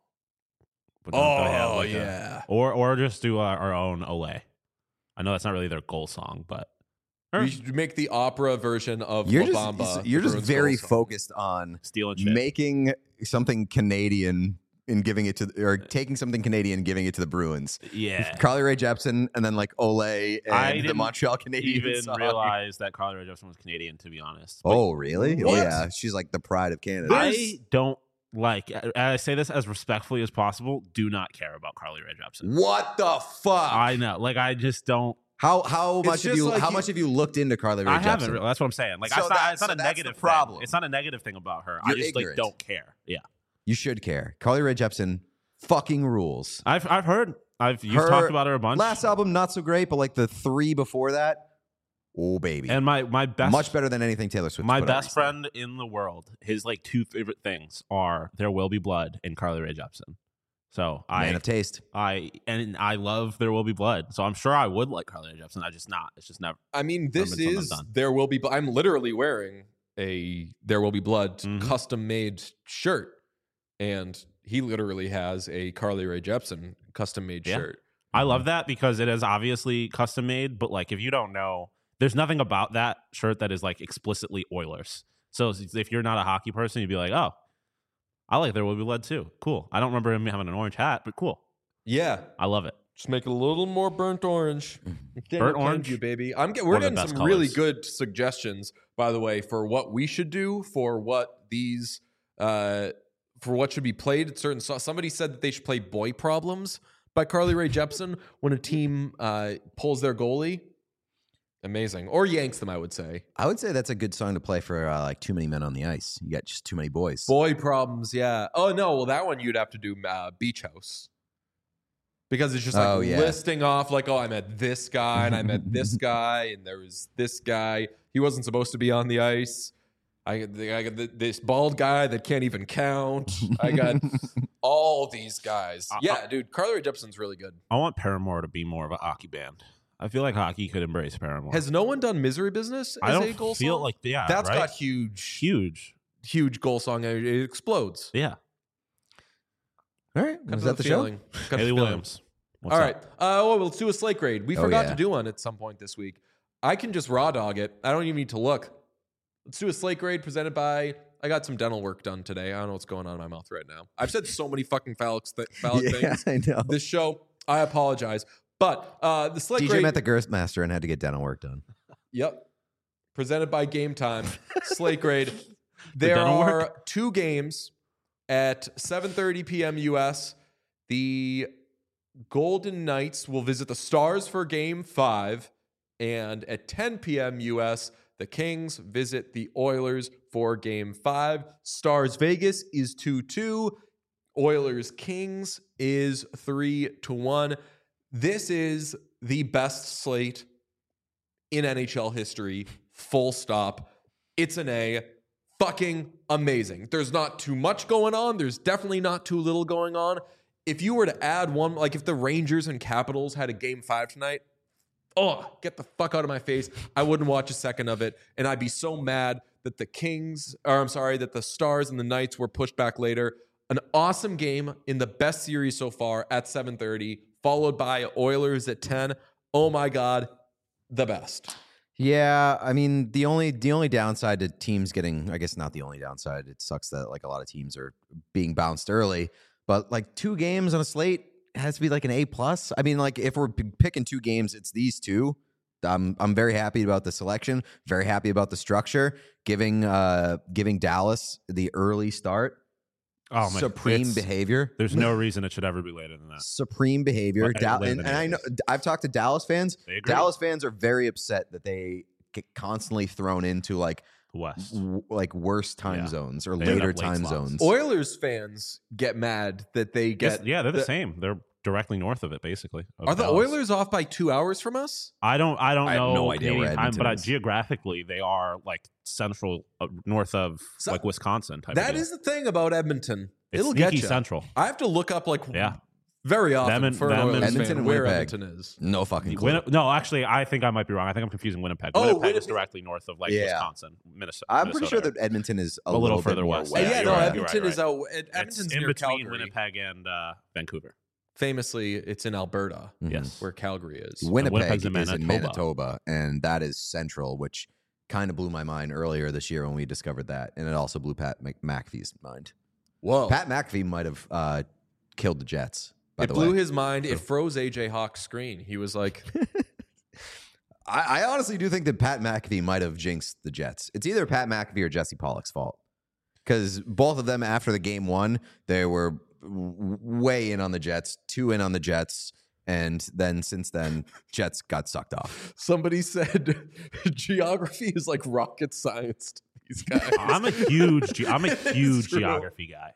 C: But don't they have,
A: Oh
C: like, a-
A: yeah.
C: or or just do our, our own Olay. I know that's not really their goal song, but or
A: We should make the opera version of
B: You're
A: La
B: just
A: Bamba.
B: you're
A: the
B: just
A: Bruins
B: very
A: goal song.
B: focused on
C: steal and shit.
B: making something Canadian and giving it to or taking something Canadian and giving it to the Bruins.
C: yeah.
B: Carly Rae Jepsen and then like Olay
C: I
B: and the
C: didn't
B: Montreal Canadiens.
C: Even
B: song.
C: realize that Carly Rae Jepsen was Canadian, to be honest. But
B: Oh, really? Oh,
A: What?
B: yeah. She's like the pride of Canada.
C: I don't like. and I say this as respectfully as possible. Do not care about Carly Rae Jepsen.
B: What the fuck?
C: I know. Like I just don't.
B: how how
A: It's
B: much have
A: just
B: you
A: like
B: how
A: you-
B: much have you looked into Carly Rae
C: I
B: Jepsen?
C: haven't. Really, that's what I'm saying. Like
B: So
C: it's not.
B: that-
C: It's not
B: so
C: a
B: that's
C: negative
B: the problem.
C: Thing. It's not a negative thing about her. I
B: You're
C: just
B: ignorant.
C: like don't care. Yeah.
B: You should care. Carly Rae Jepsen fucking rules.
C: I've I've heard. I've you've
B: Her
C: talked about her a bunch.
B: Last album not so great, but like the three before that, oh baby,
C: and my my best
B: much better than anything Taylor Swift.
C: My
B: put out
C: best
B: recently.
C: friend in the world, his like two favorite things are There Will Be Blood and Carly Rae Jepsen. So
B: Man
C: I
B: of taste.
C: I and I love There Will Be Blood. So I'm sure I would like Carly Rae Jepsen. I just not. It's just never.
A: I mean, this
C: Something I'm
A: is
C: done.
A: There Will Be. I'm literally wearing a There Will Be Blood
C: Mhm.
A: custom made shirt, and he literally has a Carly Rae Jepsen custom made
C: Yeah.
A: shirt.
C: I love that because it is obviously custom made, but like if you don't know, there's nothing about that shirt that is like explicitly Oilers. So if you're not a hockey person, you'd be like, oh, I like There Will Be Blood too. Cool. I don't remember him having an orange hat, but cool.
A: Yeah,
C: I love it.
A: just make it a little more burnt orange.
C: Burnt orange?
A: you baby. I'm get, we're
C: One of the
A: getting some
C: best
A: really
C: colors.
A: good suggestions, by the way, for what we should do for what these uh for what should be played at certain. So somebody said that they should play "Boy Problems" by Carly Rae Jepsen when a team uh pulls their goalie. Amazing, or yanks them, I would say.
B: I would say that's a good song to play for uh, like too many men on the ice. You got just too many boys.
A: Boy Problems, yeah. Oh no, well that one you'd have to do uh, Beach House. Because it's just like
B: Oh, yeah.
A: listing off, like, oh, I met this guy, and I met this guy, and there was this guy. He wasn't supposed to be on the ice. I, I got th- this bald guy that can't even count. I got all these guys.
C: Uh,
A: Yeah, dude, Carly Rae Jepsen's really good.
C: I want Paramore to be more of a hockey band. I feel like hockey could embrace Paramore.
A: Has no one done Misery Business
C: I
A: as
C: don't
A: a goal
C: feel
A: song?
C: like yeah,
A: That's
C: right?
A: got huge,
C: huge.
A: huge goal song. It explodes.
C: Yeah.
B: All right,
A: Got
B: was
A: the
B: that the
A: feeling.
B: show?
A: Got the
C: Haley
A: feeling.
C: Williams. What's
A: All
C: up?
A: right. Uh, well, let's do a slate grade. We
B: Oh,
A: forgot
B: yeah.
A: to do one at some point this week. I can just raw dog it. I don't even need to look. Let's do a slate grade presented by. I got some dental work done today. I don't know what's going on in my mouth right now. I've said so many fucking phallic, th- phallic
B: Yeah,
A: things
B: I know.
A: this show. I apologize. But uh, the slate
B: D J
A: grade.
B: met the Girth Master and had to get dental work done.
A: Yep. Presented by Game Time. Slate grade. There
C: dental
A: are
C: work?
A: two games at seven thirty p.m. U S. The Golden Knights will visit the Stars for game five. And at ten p.m. U S, the Kings visit the Oilers for game five. Stars Vegas is two two. Oilers Kings is three to one. This is the best slate in N H L history. Full stop. It's an A. Fucking amazing. There's not too much going on. There's definitely not too little going on. If you were to add one, like if the Rangers and Capitals had a game five tonight, oh, get the fuck out of my face. I wouldn't watch a second of it. And I'd be so mad that the Kings, or I'm sorry, that the Stars and the Knights were pushed back later. An awesome game in the best series so far at seven thirty, followed by Oilers at ten. Oh my God, the best.
B: Yeah, I mean the only the only downside to teams getting, I guess not the only downside. It sucks that like a lot of teams are being bounced early, but like two games on a slate has to be like an A plus. I mean, like if we're p- picking two games, it's these two. I'm I'm very happy about the selection. Very happy about the structure. Giving uh giving Dallas the early start.
C: Oh my!
B: Supreme
C: it's-
B: behavior.
C: There's no reason it should ever be later than that.
B: Supreme behavior.
C: But
B: Dal-
C: later
B: and,
C: than
B: and
C: it
B: I know
C: is.
B: I've talked to Dallas fans.
C: They agree.
B: Dallas fans are very upset that they get constantly thrown into like
C: The West.
B: w- like worse time
C: Yeah.
B: zones or
C: They end
B: later
C: up late
B: time
C: slots.
B: zones.
A: Oilers fans get mad that they
C: Yes,
A: get.
C: yeah, they're the,
A: the-
C: same. They're directly north of it, basically. of
A: Are the
C: Dallas.
A: Oilers off by two hours from us?
C: I don't. I don't
B: I have
C: know.
B: no idea where
C: Canadian time,
B: Edmonton
C: but uh,
B: is.
C: geographically, they are like central, uh, north of
A: So-
C: like Wisconsin type.
A: That
C: of deal.
A: is the thing about Edmonton.
C: It's
A: It'll get
C: sneaky
A: you.
C: central.
A: I have to look up like
C: Yeah.
A: very often
C: Them and-
A: for an
C: them and-
A: Oilers
B: Edmonton
A: fan
B: and
A: where
B: Winnipeg.
A: Edmonton is.
B: No fucking clue.
C: Win- no, actually, I think I might be wrong. I think I'm confusing Winnipeg.
A: Oh,
C: Winnipeg,
A: Winnipeg-
C: is directly north of like
B: Yeah.
C: Wisconsin, Minnesota.
B: I'm pretty sure
C: Minnesota.
B: that Edmonton is a,
C: A little
B: little, bit
C: further
B: more
C: west.
A: Uh,
C: Yeah,
A: yeah,
C: you're
A: no,
C: right, you're
A: Edmonton
C: right,
A: is out. Ed-
C: It's
A: Edmonton's
C: in
A: near
C: between
A: Calgary.
C: Winnipeg and uh, Vancouver.
A: Famously, it's in Alberta,
B: Mhm.
C: Yes.
A: where Calgary is.
B: Winnipeg
C: Winnipeg's in
B: is in
C: Manitoba.
B: Manitoba, and that is central, which kind of blew my mind earlier this year when we discovered that, and it also blew Pat Mc- McAfee's mind.
A: Whoa!
B: Pat McAfee might have uh, killed the Jets. By
A: it
B: the
A: blew
B: way,
A: his mind. It froze A J Hawk's screen. He was like,
B: I, I honestly do think that Pat McAfee might have jinxed the Jets. It's either Pat McAfee or Jesse Pollock's fault, because both of them after the game one, they were w- way in on the Jets, two in on the Jets, and then since then, Jets got sucked off.
A: somebody said, geography is like rocket science to these guys.
C: I'm a huge. ge- I'm a
A: It's
C: huge
A: true.
C: geography guy.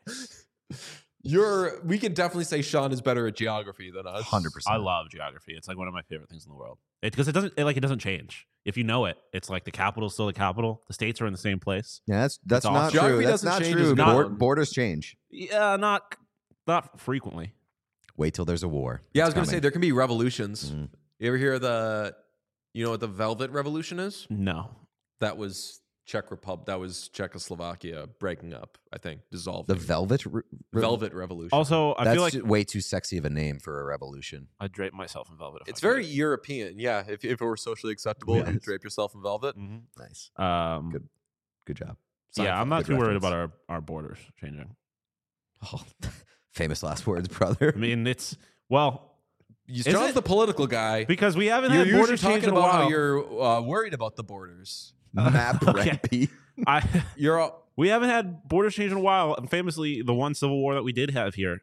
A: You're. We can definitely say Sean is better at geography than us.
B: Hundred percent.
C: I love geography. It's like one of my favorite things in the world. It because it doesn't it, like it doesn't change. If you know it, it's like the capital's still the capital. The states are in the same place.
B: Yeah, that's that's
C: It's
B: not
C: awesome.
B: true.
A: Geography
B: That's
A: doesn't
B: not
A: change
B: true.
A: as
B: Bor-
A: much.
B: borders change.
C: Yeah, not not frequently.
B: Wait till there's a war.
A: Yeah, I was
B: It's
A: going to say
B: coming.
A: there can be revolutions.
B: Mm.
A: You ever hear the, you know what the Velvet Revolution is?
C: No.
A: That was Czech Republic. That was Czechoslovakia breaking up. I think dissolving.
B: The Velvet Re- Re-
A: Velvet Revolution.
C: Also, I
B: That's
C: feel like
B: ju- way too sexy of a name for a revolution.
C: I drape myself in velvet. if
A: it's
C: I could.
A: very European. Yeah, if if it were socially acceptable,
C: Yeah.
A: you drape yourself in velvet.
C: Mhm.
B: Nice.
C: Um,
B: Good. Good job.
C: yeah, I'm not
B: Good
C: too worried
B: reference.
C: about our, our borders changing.
B: Oh, famous last words, brother.
C: I mean, it's well
A: You-
C: Is
A: John's
C: it?
A: the political guy.
C: because we haven't
A: You're
C: had
A: usually
C: borders changed
A: talking
C: in a
A: about how
C: while.
A: you're uh, worried about the borders.
B: Map
C: Okay.
B: Recipe.
C: I
A: You're all,
C: we haven't had borders changed in a while, and famously, the one civil war that we did have here,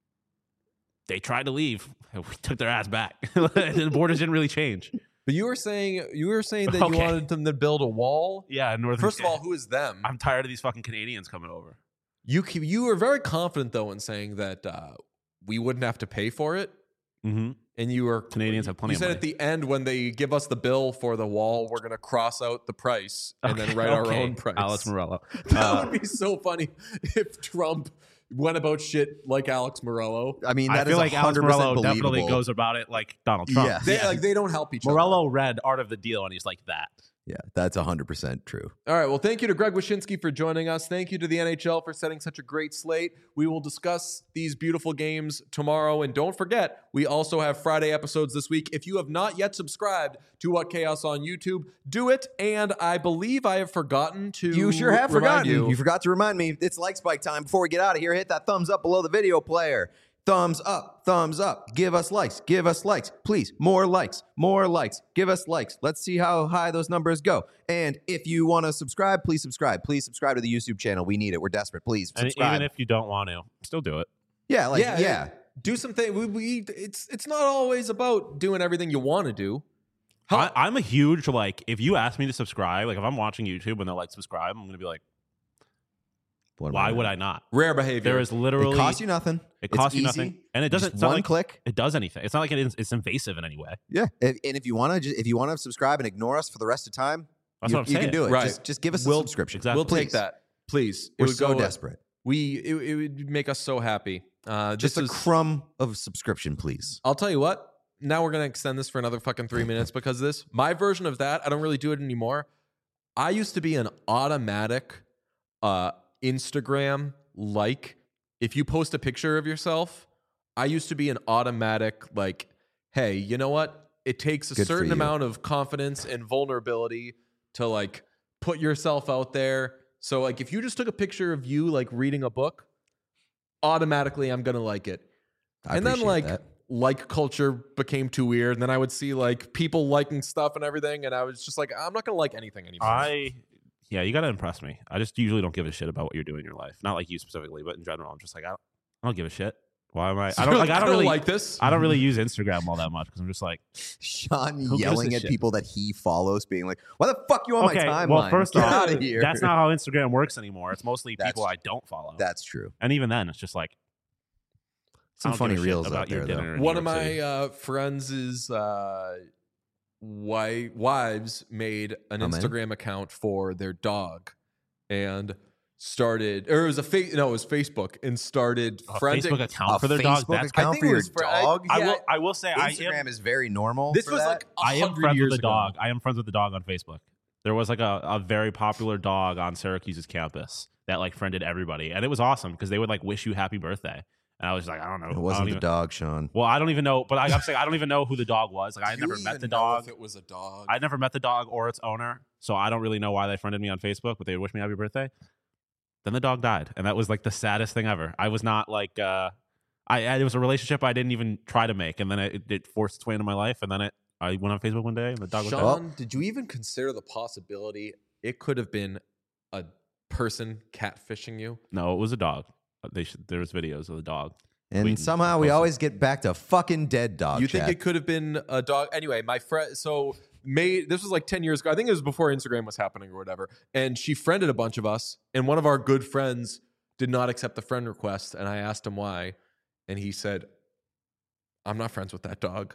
C: they tried to leave. We took their ass back. The borders didn't really change.
A: but you were saying you were saying that
C: Okay.
A: you wanted them to build a wall.
C: Yeah, in northern.
A: First of all, who is them?
C: I'm tired of these fucking Canadians coming over.
A: You keep- you were very confident though in saying that uh, we wouldn't have to pay for it,
C: Mm-hmm.
A: and you were
C: Canadians have plenty
A: You
C: of
A: said
C: money.
A: at the end when they give us the bill for the wall, we're gonna cross out the price and then write our
C: Okay.
A: own price.
C: Alex Morello.
A: That
C: Uh,
A: would be so funny if Trump went about shit like Alex Morello.
B: I mean,
C: I
B: that is
C: feel like Alex
B: one hundred percent
C: Morello definitely
B: believable.
C: goes about it like Donald Trump.
B: Yeah.
A: They, Like they don't help each
C: Morello read Art of the Deal, and he's like that.
B: Yeah, that's one hundred percent true.
A: other. All right. Well, thank you to Greg Wyshynski for joining us. Thank you to the N H L for setting such a great slate. We will discuss these beautiful games tomorrow. And don't forget, we also have Friday episodes this week. If you have not yet subscribed to What Chaos on YouTube, do it. And I believe I have forgotten to
B: You sure have
A: remind
B: forgotten.
A: you.
B: You forgot to remind me. It's like spike time. Before we get out of here, hit that thumbs up below the video player. Thumbs up, thumbs up. Give us likes, give us likes. Please, more likes, more likes. Give us likes. Let's see how high those numbers go. And if you want to subscribe, please subscribe. Please subscribe to the YouTube channel. We need it. We're desperate. Please
C: And
B: subscribe.
C: even if you don't want to, still do it.
B: yeah, like, yeah.
A: yeah, do something. We, we it's it's not always about doing everything you want to do. How-
C: I, I'm a huge like. If you ask me to subscribe, like if I'm watching YouTube and they're like subscribe, I'm gonna be like,
B: What am
C: why would
B: doing?
C: I not?
A: Rare behavior.
C: There is literally
B: It costs you nothing.
C: it
B: It's
C: costs you
B: easy.
C: nothing, and it doesn't.
B: Just
C: It's not
B: one
C: like
B: click.
C: it does anything. It's not like it is, it's invasive in any way.
B: Yeah, and, and if you want to, just if you want to subscribe and ignore us for the rest of time,
C: That's
B: you,
C: what I'm
B: you
C: saying.
B: can do it.
A: Right.
B: Just, just give us
A: We'll-
B: a subscription.
C: exactly.
A: We'll take
B: Please.
A: that, please. It
B: We're
A: would
B: so
A: go-
B: desperate.
A: We it, it would make us so happy. Uh,
B: Just
A: this
B: a
A: is,
B: crumb of subscription, please.
A: I'll tell you what. Now we're gonna extend this for another fucking three minutes because of this. My version of that, I don't really do it anymore. I used to be an automatic uh, Instagram like. If you post a picture of yourself, I used to be an automatic like, hey, you know what? It takes a
B: Good for
A: certain
B: you.
A: amount of confidence and vulnerability to like put yourself out there. So like if you just took a picture of you like reading a book, automatically I'm gonna like it.
B: I
A: and then
B: appreciate
A: like
B: that.
A: like culture became too weird. And then I would see like people liking stuff and everything, and I was just like, I'm not gonna like anything anymore.
C: I yeah, you gotta impress me. I just usually don't give a shit about what you're doing in your life. Not like you specifically, but in general, I'm just like I don't, I don't give a shit. Why am I? I don't like. I don't really
A: like this.
C: I don't really use Instagram all that much because I'm just like,
B: Sean
C: Who gives
B: yelling
C: a
B: at
C: shit?
B: people that he follows, being like, "Why the fuck you on
C: okay,
B: my timeline?
C: well, first
B: Get
C: off,
B: out of here."
C: that's not how Instagram works anymore. It's mostly
B: That's-
C: people I don't follow.
B: That's true.
C: and even then, it's just like
B: Some
C: I don't
B: funny
C: give a shit
B: reels
C: about
B: out
C: your
B: there,
C: dinner
B: though.
C: in
A: One
C: New
A: of
C: York
A: my
C: City.
A: uh, friends' uh, wi- wives made an
B: Oh, man.
A: Instagram account for their dog and started, or it was a fa- no, it was Facebook, and started
C: a
A: friending.
C: Facebook account
B: A
C: for their dog.
B: Facebook
C: That's
B: account
A: think
B: for
A: it
B: your
A: was for- I-
B: dog?
C: I
A: yeah,
C: will. I will say I
B: Instagram
C: am.
B: is very normal.
A: This
B: for
A: was
B: that.
A: like a
C: I am
A: hundred
C: friends
A: years
C: with the
A: ago.
C: dog. I am friends with the dog on Facebook. There was like a, a very popular dog on Syracuse's campus that like friended everybody, and it was awesome because they would like wish you happy birthday. And I was like, I don't know.
B: It
C: I don't
B: wasn't the
C: even-
B: dog, Sean.
C: Well, I don't even know, but I, I'm saying I don't even know who the dog was. Like I had
A: Do you
C: never met
A: even
C: the
A: know
C: dog.
A: If it was a dog.
C: I never met the dog or its owner, so I don't really know why they friended me on Facebook, but they would wish me happy birthday. Then the dog died, and that was like the saddest thing ever. I was not like, uh, I, I it was a relationship I didn't even try to make, and then it, it forced its way into my life, and then it I went on Facebook one day, and the dog was dead.
A: Sean, did you even consider the possibility it could have been a person catfishing you?
C: No, it was a dog. They should, there was videos of the dog.
B: And
C: Waiting
B: somehow
C: for
B: we
C: closer.
B: always get back to fucking dead dog.
A: You
B: chat.
A: think it could have been a dog? Anyway, my friend, so made this was like ten years ago. I think it was before Instagram was happening or whatever. And she friended a bunch of us, and one of our good friends did not accept the friend request. And I asked him why, and he said, "I'm not friends with that dog."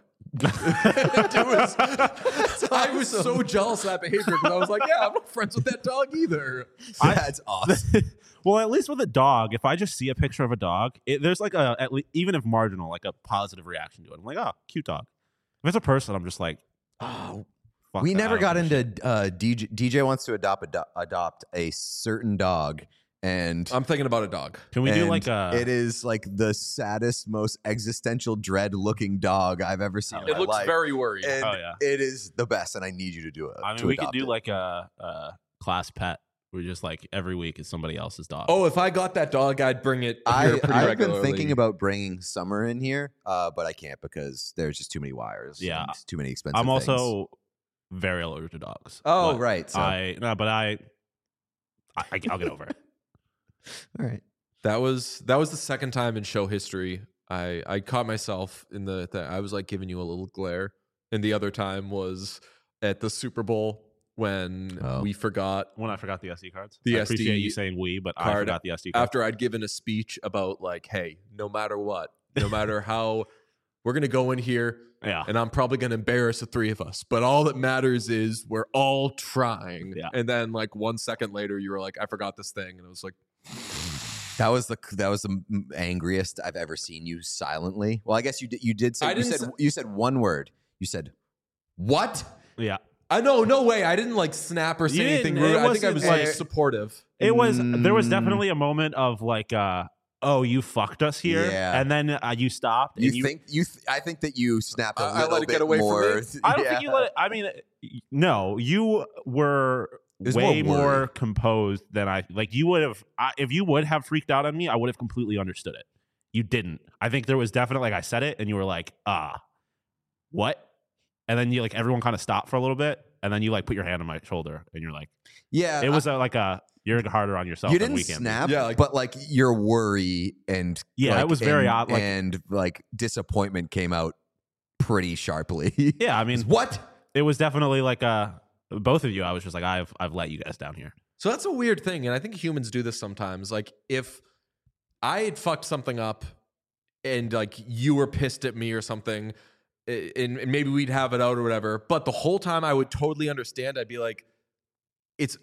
A: It was- I was so jealous of that behavior because I was like, "Yeah, I'm not friends with that dog either."
B: That's awesome.
C: Well, at least with a dog, if I just see a picture of a dog, it, there's like a at least, even if marginal, like a positive reaction to it. I'm like, oh, cute dog. If it's a person, I'm just like, oh, fuck
B: we
C: that.
B: never
C: I
B: got
C: don't give a
B: into uh, D J. D J wants to adopt ado- adopt a certain dog, and
A: I'm thinking about a dog.
C: shit. Can we do
B: and
C: like a?
B: It is like the saddest, most existential dread looking dog I've ever seen.
C: Oh,
B: in
A: It
B: my
A: looks
B: life.
A: very worried.
B: And
C: Oh, yeah.
B: it is the best, and I need you to do it.
C: I mean,
B: to
C: we could
B: adopt
C: do
B: it.
C: like a, a class pet. We're just like every week is somebody else's dog.
A: Oh, if I got that dog, I'd bring it here
B: I,
A: pretty
B: I've
A: regularly.
B: been thinking about bringing Summer in here, uh, but I can't because there's just too many wires.
C: Yeah.
B: and too many expensive.
C: I'm
B: things.
C: also very allergic to dogs.
B: Oh,
C: but
B: right. So,
C: I no, but I, I I'll get over it.
B: all right.
A: That was that was the second time in show history I I caught myself in the, the I was like giving you a little glare, and the other time was at the Super Bowl when
B: Oh.
A: we forgot
C: When I forgot the S D cards,
A: The
C: I appreciate
A: S D
C: you saying we, but I
A: card
C: forgot the S D card.
A: after I'd given a speech about like, hey, no matter what, no matter how, we're gonna go in here
C: Yeah,
A: and I'm probably gonna embarrass the three of us, but all that matters is we're all trying.
C: Yeah.
A: And then like one second later, you were like, I forgot this thing, and I was like,
B: That was the that was the m- angriest I've ever seen you silently. Well, I guess you did. You did say
A: I
B: you
A: didn't
B: said
A: say-
B: you said one word. You said what?
C: yeah.
A: I know, no way. I didn't like snap or say
C: You
A: anything
C: didn't-
A: rude.
C: it
A: I think I
C: wasn't
A: was like
C: like-
A: supportive.
C: It was there was
B: Mm.
C: definitely a moment of like, uh, oh, you fucked us here,
B: Yeah.
C: and then uh, you stopped.
B: You,
C: and you
B: think you? Th- I think that you snapped a
A: I- I
B: little
A: let it
B: bit
A: get away from
B: more.
A: me?
C: I don't
B: Yeah.
C: think you let it. I mean, no, you were
B: was
C: way
B: more
C: more,
B: worry.
C: composed than I. Like you would have. I, if you would have freaked out on me, I would have completely understood it. You didn't. I think there was definitely like I said it, and you were like, ah, what? And then you like everyone kind of stopped for a little bit, and then you like put your hand on my shoulder, and you're like,
B: Yeah,
C: it was a, like a you're harder on yourself.
B: you
C: than
B: didn't
C: we can be.
B: snap,
A: Yeah, like-
B: but like your worry and
C: Yeah,
B: like,
C: it was very
B: and,
C: odd, like-
B: and like disappointment came out pretty sharply.
C: Yeah, I mean,
B: what?
C: it was definitely like a both of you. I was just like, I've I've let you guys down here.
A: So that's a weird thing, and I think humans do this sometimes. Like if I had fucked something up and like you were pissed at me or something, and, and maybe we'd have it out or whatever, but the whole time I would totally understand. I'd be like, it's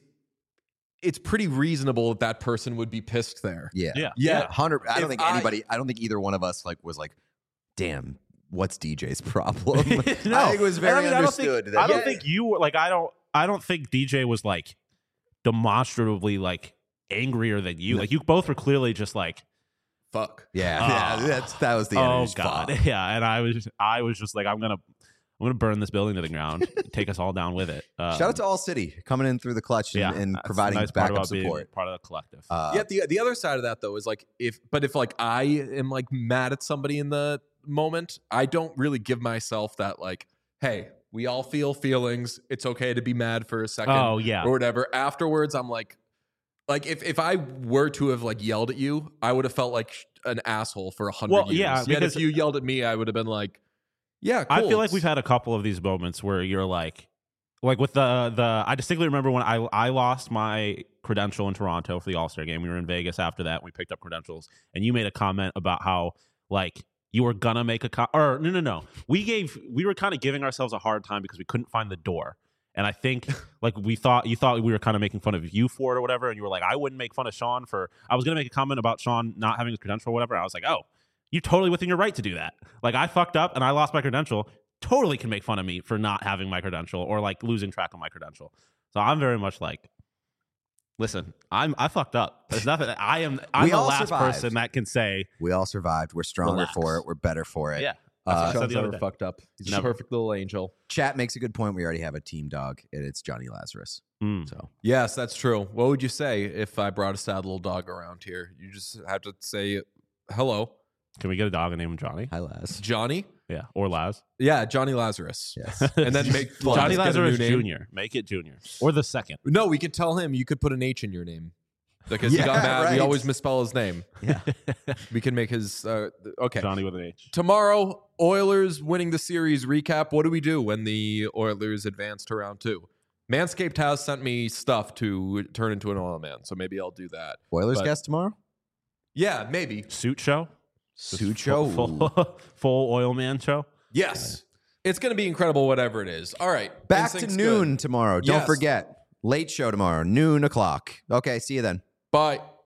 A: it's pretty reasonable that that person would be pissed there.
B: Yeah,
C: Yeah.
A: Yeah.
B: hundred. I don't
A: If
B: think
A: I-
B: anybody. I don't think either one of us like was like, damn. What's D J's problem?
C: no,
B: I think it was very
C: I mean,
B: understood.
C: I don't think,
B: that-
C: I don't
B: yeah.
C: think you were like I don't I don't think D J was like demonstratively like angrier than you.
B: No.
C: Like you both were clearly just like,
A: Fuck.
B: Yeah,
C: Ah.
B: yeah, that's that was the
C: oh
B: energy.
C: god,
B: Fuck.
C: yeah. And I was just, I was just like, I'm gonna I'm gonna burn this building to the ground, take us all down with it. Um,
B: Shout out to All City coming in through the clutch and,
C: yeah,
B: and
C: that's the
B: providing
C: nice part
B: backup
C: about being
B: support.
C: part of the collective.
B: Uh,
A: yeah, the the other side of that though is like if but if like I am like mad at somebody in the moment, I don't really give myself that like, hey, we all feel feelings. It's okay to be mad for a second
C: oh yeah,
A: or whatever. Afterwards, I'm like, like if if I were to have like yelled at you, I would have felt like sh- an asshole for a hundred
C: Well,
A: years.
C: yeah,
A: Yet
C: because-
A: if you yelled at me, I would have been like, yeah, cool.
C: I feel like
A: It's-
C: we've had a couple of these moments where you're like, like with the the. I distinctly remember when I I lost my credential in Toronto for the All Star game. We were in Vegas after that. We picked up credentials, and you made a comment about how like you were gonna make a co- or no no no. We gave we were kind of giving ourselves a hard time because we couldn't find the door. And I think like we thought you thought we were kind of making fun of you for it or whatever, and you were like, I wouldn't make fun of Sean for. I was gonna make a comment about Sean not having his credential or whatever. And I was like, oh, you're totally within your right to do that. Like I fucked up and I lost my credential. Totally can make fun of me for not having my credential or like losing track of my credential. So I'm very much like, listen, I'm I fucked up. There's nothing. I am. I'm
B: We
C: the
B: all
C: last
B: survived.
C: person that can say,
B: we all survived. We're stronger
C: Relax.
B: for it. We're better for it.
C: yeah.
B: Uh,
C: That's what I said
A: Sean's
C: the other
A: never
C: day.
A: fucked up. He's a
C: Never.
A: perfect little angel.
B: Chat makes a good point. We already have a team dog, and it's Johnny Lazarus.
C: Mm.
B: So
A: Yes, that's true. What would you say if I brought a sad little dog around here? You just have to say hello,
C: Can we get a dog and name him Johnny?
B: hi, Laz.
A: Johnny.
C: Yeah, or Laz.
A: Yeah, Johnny Lazarus.
B: Yes.
A: And then make Laz
C: Johnny
A: get a
C: Lazarus
A: new name.
C: Junior Make it Junior or the second.
A: No, we could tell him you could put an H in your name because
B: Yeah,
A: he got mad. We
B: right.
A: always misspell his name.
B: Yeah.
A: We can make his uh, okay.
C: Johnny with an H.
A: Tomorrow, Oilers winning the series recap. What do we do when the Oilers advance to round two? Manscaped has sent me stuff to turn into an oil man, so maybe I'll do that.
B: Oilers
A: But-
B: guest tomorrow.
A: Yeah, maybe.
C: Suit show.
B: Suit
C: Just
B: show.
C: Full, full, full oil man show.
A: Yes. It's going to be incredible, whatever it is. All right.
B: Back to
A: Instinct's
B: noon
A: good.
B: tomorrow. Don't
A: Yes.
B: forget. Late show tomorrow, noon o'clock. Okay, see you then.
A: Bye.